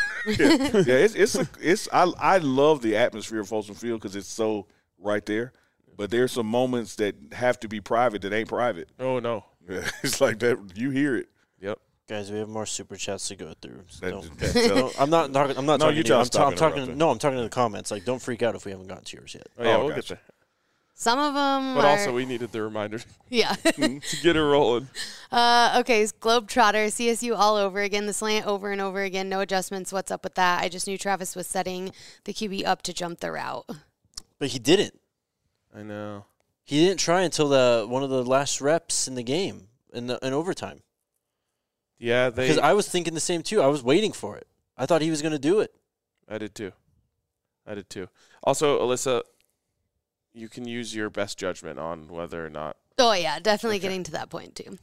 Speaker 3: I love the atmosphere of Folsom Field because it's so right there. But there's some moments that have to be private that ain't private.
Speaker 2: Oh, no.
Speaker 3: It's like that. You hear it.
Speaker 2: Yep.
Speaker 1: Guys, we have more super chats to go through. So
Speaker 3: I'm
Speaker 1: not talking. I'm talking to you. I'm talking to the comments. Like, don't freak out if we haven't gotten to yours yet.
Speaker 2: Oh, yeah, we'll get there.
Speaker 6: Some of them
Speaker 2: But
Speaker 6: are,
Speaker 2: also, we needed the reminder
Speaker 6: yeah.
Speaker 2: to get her rolling.
Speaker 6: Okay, Globetrotter, CSU all over again, the slant over and over again, no adjustments. What's up with that? I just knew Travis was setting the QB up to jump the route.
Speaker 1: But he didn't.
Speaker 2: I know.
Speaker 1: He didn't try until one of the last reps in the game in overtime.
Speaker 2: Yeah,
Speaker 1: Because I was thinking the same too. I was waiting for it. I thought he was going to do it.
Speaker 2: I did too. Also, Alyssa, you can use your best judgment on whether or not.
Speaker 6: Oh, yeah, definitely getting to that point, too.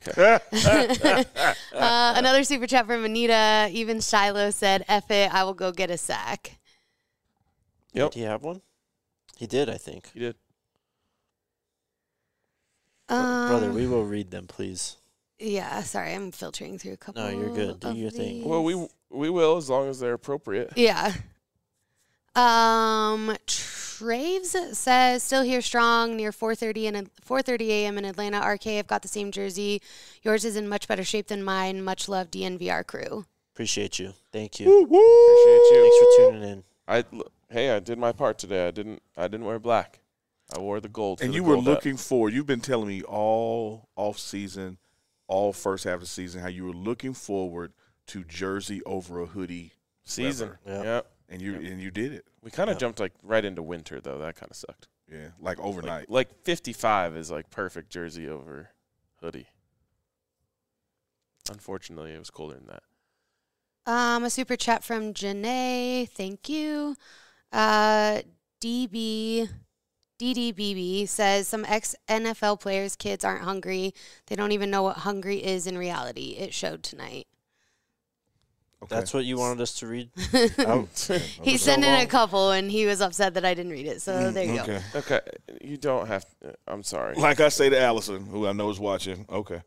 Speaker 6: Another super chat from Anita. Even Shiloh said, F it, I will go get a sack.
Speaker 2: Yep.
Speaker 1: Did he have one? He did, I think.
Speaker 2: He did.
Speaker 1: Brother, we will read them, please.
Speaker 6: Yeah, sorry, I'm filtering through a couple.
Speaker 1: No, you're good. Do
Speaker 6: of
Speaker 1: your thing.
Speaker 6: these.
Speaker 2: Well, we will as long as they're appropriate.
Speaker 6: Yeah. Traves says, still here strong near 4:30 a.m. in Atlanta. RK, I've got the same jersey. Yours is in much better shape than mine. Much love, DNVR crew.
Speaker 1: Appreciate you. Thank you.
Speaker 2: Appreciate you.
Speaker 1: Thanks for tuning in.
Speaker 2: I did my part today. I didn't wear black. I wore the gold.
Speaker 3: And you were looking forward. You've been telling me all off season, all first half of the season, how you were looking forward to jersey over a hoodie
Speaker 2: season.
Speaker 1: Yep.
Speaker 2: Yeah.
Speaker 3: And you did it.
Speaker 2: We kind of jumped like right into winter though. That kind of sucked.
Speaker 3: Yeah, like overnight.
Speaker 2: Like 55 is like perfect jersey over hoodie. Unfortunately, it was colder than that.
Speaker 6: A super chat from Janae. Thank you. DDBB says some ex-NFL players' kids aren't hungry. They don't even know what hungry is in reality. It showed tonight.
Speaker 3: Okay.
Speaker 1: That's what you wanted us to read?
Speaker 6: He sent in a couple, and he was upset that I didn't read it. So there you go.
Speaker 2: Okay. You don't have to. I'm sorry.
Speaker 3: Like I say to Allison, who I know is watching. Okay.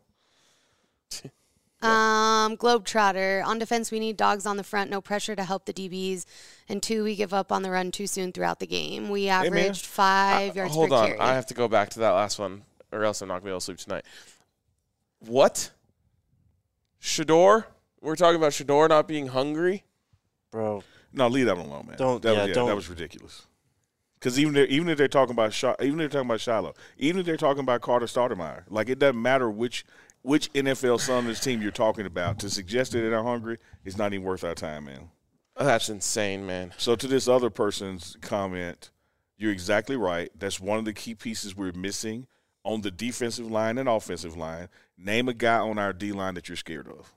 Speaker 6: Globetrotter. On defense, we need dogs on the front. No pressure to help the DBs. And 2, we give up on the run too soon throughout the game. We averaged 5 yards per carry.
Speaker 2: Hold on. I have to go back to that last one, or else I'm not going to be able to sleep tonight. What? Shador? We're talking about Shador not being hungry?
Speaker 1: Bro.
Speaker 3: No, leave that alone, man.
Speaker 1: Don't.
Speaker 3: That was ridiculous. Because even if they're talking about Shiloh, even if they're talking about Carter Stoudemire, like it doesn't matter which NFL son of this team you're talking about. To suggest that they're hungry is not even worth our time, man.
Speaker 2: That's insane, man.
Speaker 3: So to this other person's comment, you're exactly right. That's one of the key pieces we're missing on the defensive line and offensive line. Name a guy on our D line that you're scared of.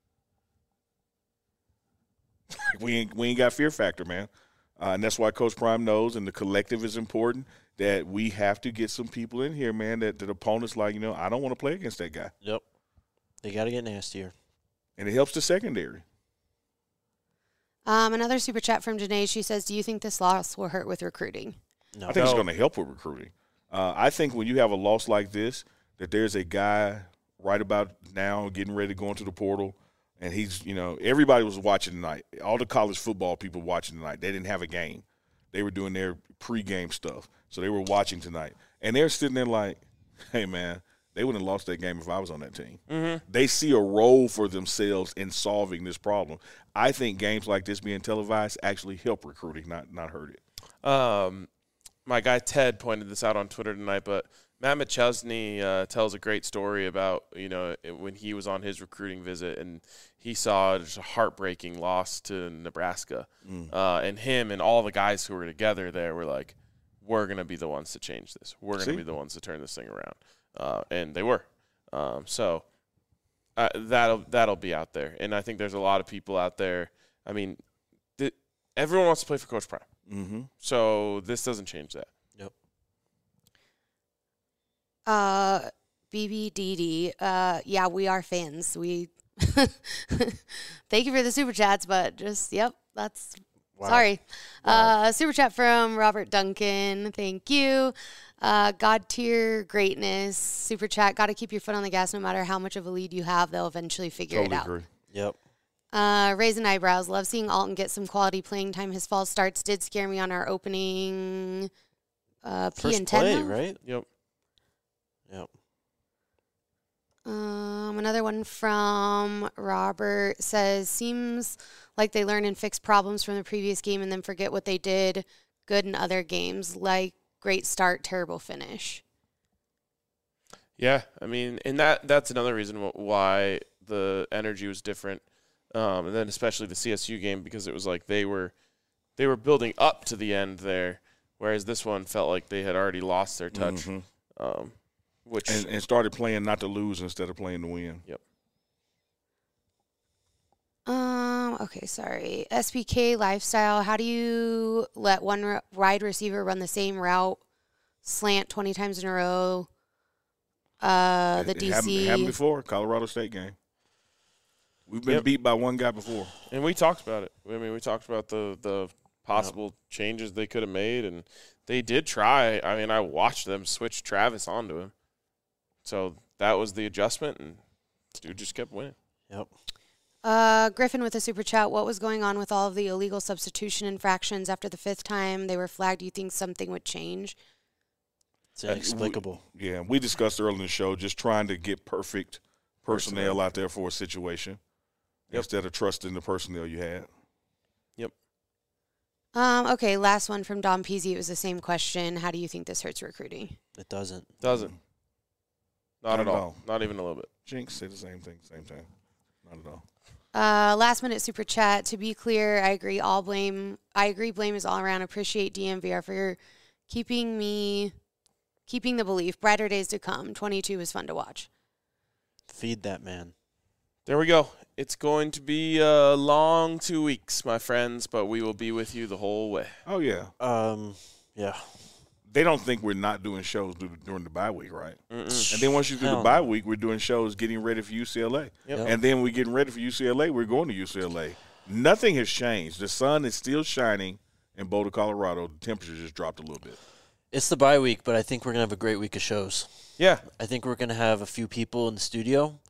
Speaker 3: We ain't got fear factor, man. And that's why Coach Prime knows, and the collective is important, that we have to get some people in here, man, that opponents like, I don't want to play against that guy.
Speaker 1: Yep. They got to get nastier.
Speaker 3: And it helps the secondary.
Speaker 6: Another super chat from Janae. She says, do you think this loss will hurt with recruiting?
Speaker 1: No.
Speaker 3: I think it's going to help with recruiting. I think when you have a loss like this, that there's a guy right about now getting ready to go into the portal, and he's, everybody was watching tonight. All the college football people watching tonight. They didn't have a game. They were doing their pregame stuff. So they were watching tonight. And they're sitting there like, hey, man, they wouldn't have lost that game if I was on that team. Mm-hmm. They see a role for themselves in solving this problem. I think games like this being televised actually help recruiting, not hurt it.
Speaker 2: My guy Ted pointed this out on Twitter tonight, but Matt McChesney tells a great story about, when he was on his recruiting visit and he saw just a heartbreaking loss to Nebraska. And him and all the guys who were together there were like, we're going to be the ones to change this. We're going to be the ones to turn this thing around. And they were. So that'll be out there. And I think there's a lot of people out there. I mean, everyone wants to play for Coach Prime.
Speaker 3: Mm-hmm.
Speaker 2: So this doesn't change that.
Speaker 1: Yep.
Speaker 6: BBDD. Yeah, we are fans. We thank you for the super chats, but just that's wow. Sorry. Wow. Super chat from Robert Duncan. Thank you. God tier greatness. Super chat. Got to keep your foot on the gas no matter how much of a lead you have. They'll eventually figure it out.
Speaker 3: Agree.
Speaker 1: Yep.
Speaker 6: Raising eyebrows. Love seeing Alton get some quality playing time. His false starts did scare me on our opening
Speaker 1: First play, right?
Speaker 2: Yep.
Speaker 6: Another one from Robert says, seems like they learn and fix problems from the previous game and then forget what they did good in other games. Like great start, terrible finish.
Speaker 2: Yeah, I mean, and that's another reason why the energy was different, and then especially the CSU game, because it was like they were building up to the end there, whereas this one felt like they had already lost their touch, which
Speaker 3: and started playing not to lose instead of playing to win.
Speaker 2: Yep.
Speaker 6: Okay, sorry. SPK Lifestyle, how do you let one wide receiver run the same route, slant 20 times in a row? The DC.
Speaker 3: It happened before, Colorado State game. We've been beat by one guy before.
Speaker 2: And we talked about it. I mean, we talked about the possible changes they could have made, and they did try. I mean, I watched them switch Travis onto him. So that was the adjustment, and dude just kept winning.
Speaker 1: Yep.
Speaker 6: Griffin with a super chat. What was going on with all of the illegal substitution infractions after the 5th time they were flagged? Do you think something would change?
Speaker 1: It's inexplicable.
Speaker 3: We discussed earlier in the show just trying to get perfect personnel out there for a situation instead of trusting the personnel you had.
Speaker 2: Yep.
Speaker 6: Okay, last one from Dom Peasy. It was the same question. How do you think this hurts recruiting?
Speaker 1: It doesn't.
Speaker 2: Not at all. Not even a little bit.
Speaker 3: Jinx said the same thing, same time. Not at all.
Speaker 6: Last minute super chat. To be clear, I agree. Blame is all around. Appreciate DMVR for keeping the belief. Brighter days to come. 22 was fun to watch.
Speaker 1: Feed that man.
Speaker 2: There we go. It's going to be a long 2 weeks, my friends, but we will be with you the whole way.
Speaker 3: Oh, yeah.
Speaker 1: Yeah.
Speaker 3: They don't think we're not doing shows during the bye week, right?
Speaker 2: Mm-mm.
Speaker 3: And then once you do the bye week, we're doing shows getting ready for UCLA.
Speaker 2: Yep.
Speaker 3: And then we're getting ready for UCLA. We're going to UCLA. Nothing has changed. The sun is still shining in Boulder, Colorado. The temperature just dropped a little bit.
Speaker 1: It's the bye week, but I think we're going to have a great week of shows.
Speaker 2: Yeah.
Speaker 1: I think we're going to have a few people in the studio.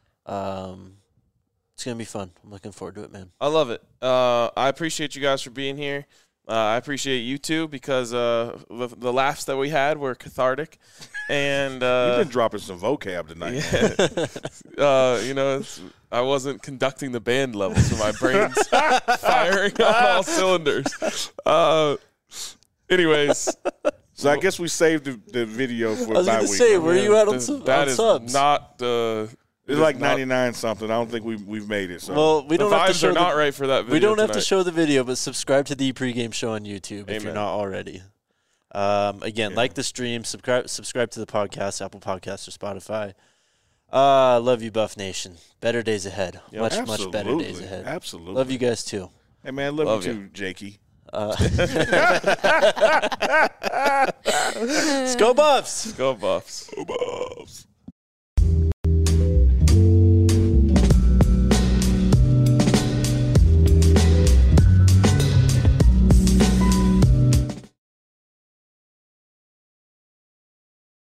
Speaker 1: It's going to be fun. I'm looking forward to it, man.
Speaker 2: I love it. I appreciate you guys for being here. I appreciate you too, because the laughs that we had were cathartic. And
Speaker 3: you've been dropping some vocab tonight.
Speaker 2: Yeah. I wasn't conducting the band level, so my brain's firing on all cylinders. Anyways.
Speaker 3: So I guess we saved the video for bye week.
Speaker 1: I was going to say, where are you at on subs?
Speaker 2: That is not
Speaker 3: it's like 99 something. I don't think we've made it. So.
Speaker 1: Well, we don't have to show
Speaker 2: not right for that video.
Speaker 1: We don't have
Speaker 2: tonight.
Speaker 1: to show the video, but subscribe to the pregame show on YouTube if you're
Speaker 2: Amen.
Speaker 1: not already. Again, like the stream, subscribe to the podcast, Apple Podcasts or Spotify. Love you, Buff Nation. Better days ahead.
Speaker 3: Yep.
Speaker 1: Much better days ahead.
Speaker 3: Absolutely.
Speaker 1: Love you guys too.
Speaker 3: Hey man, love you too, Jakey.
Speaker 1: Let's go Buffs.
Speaker 2: Go Buffs.
Speaker 3: Go Buffs.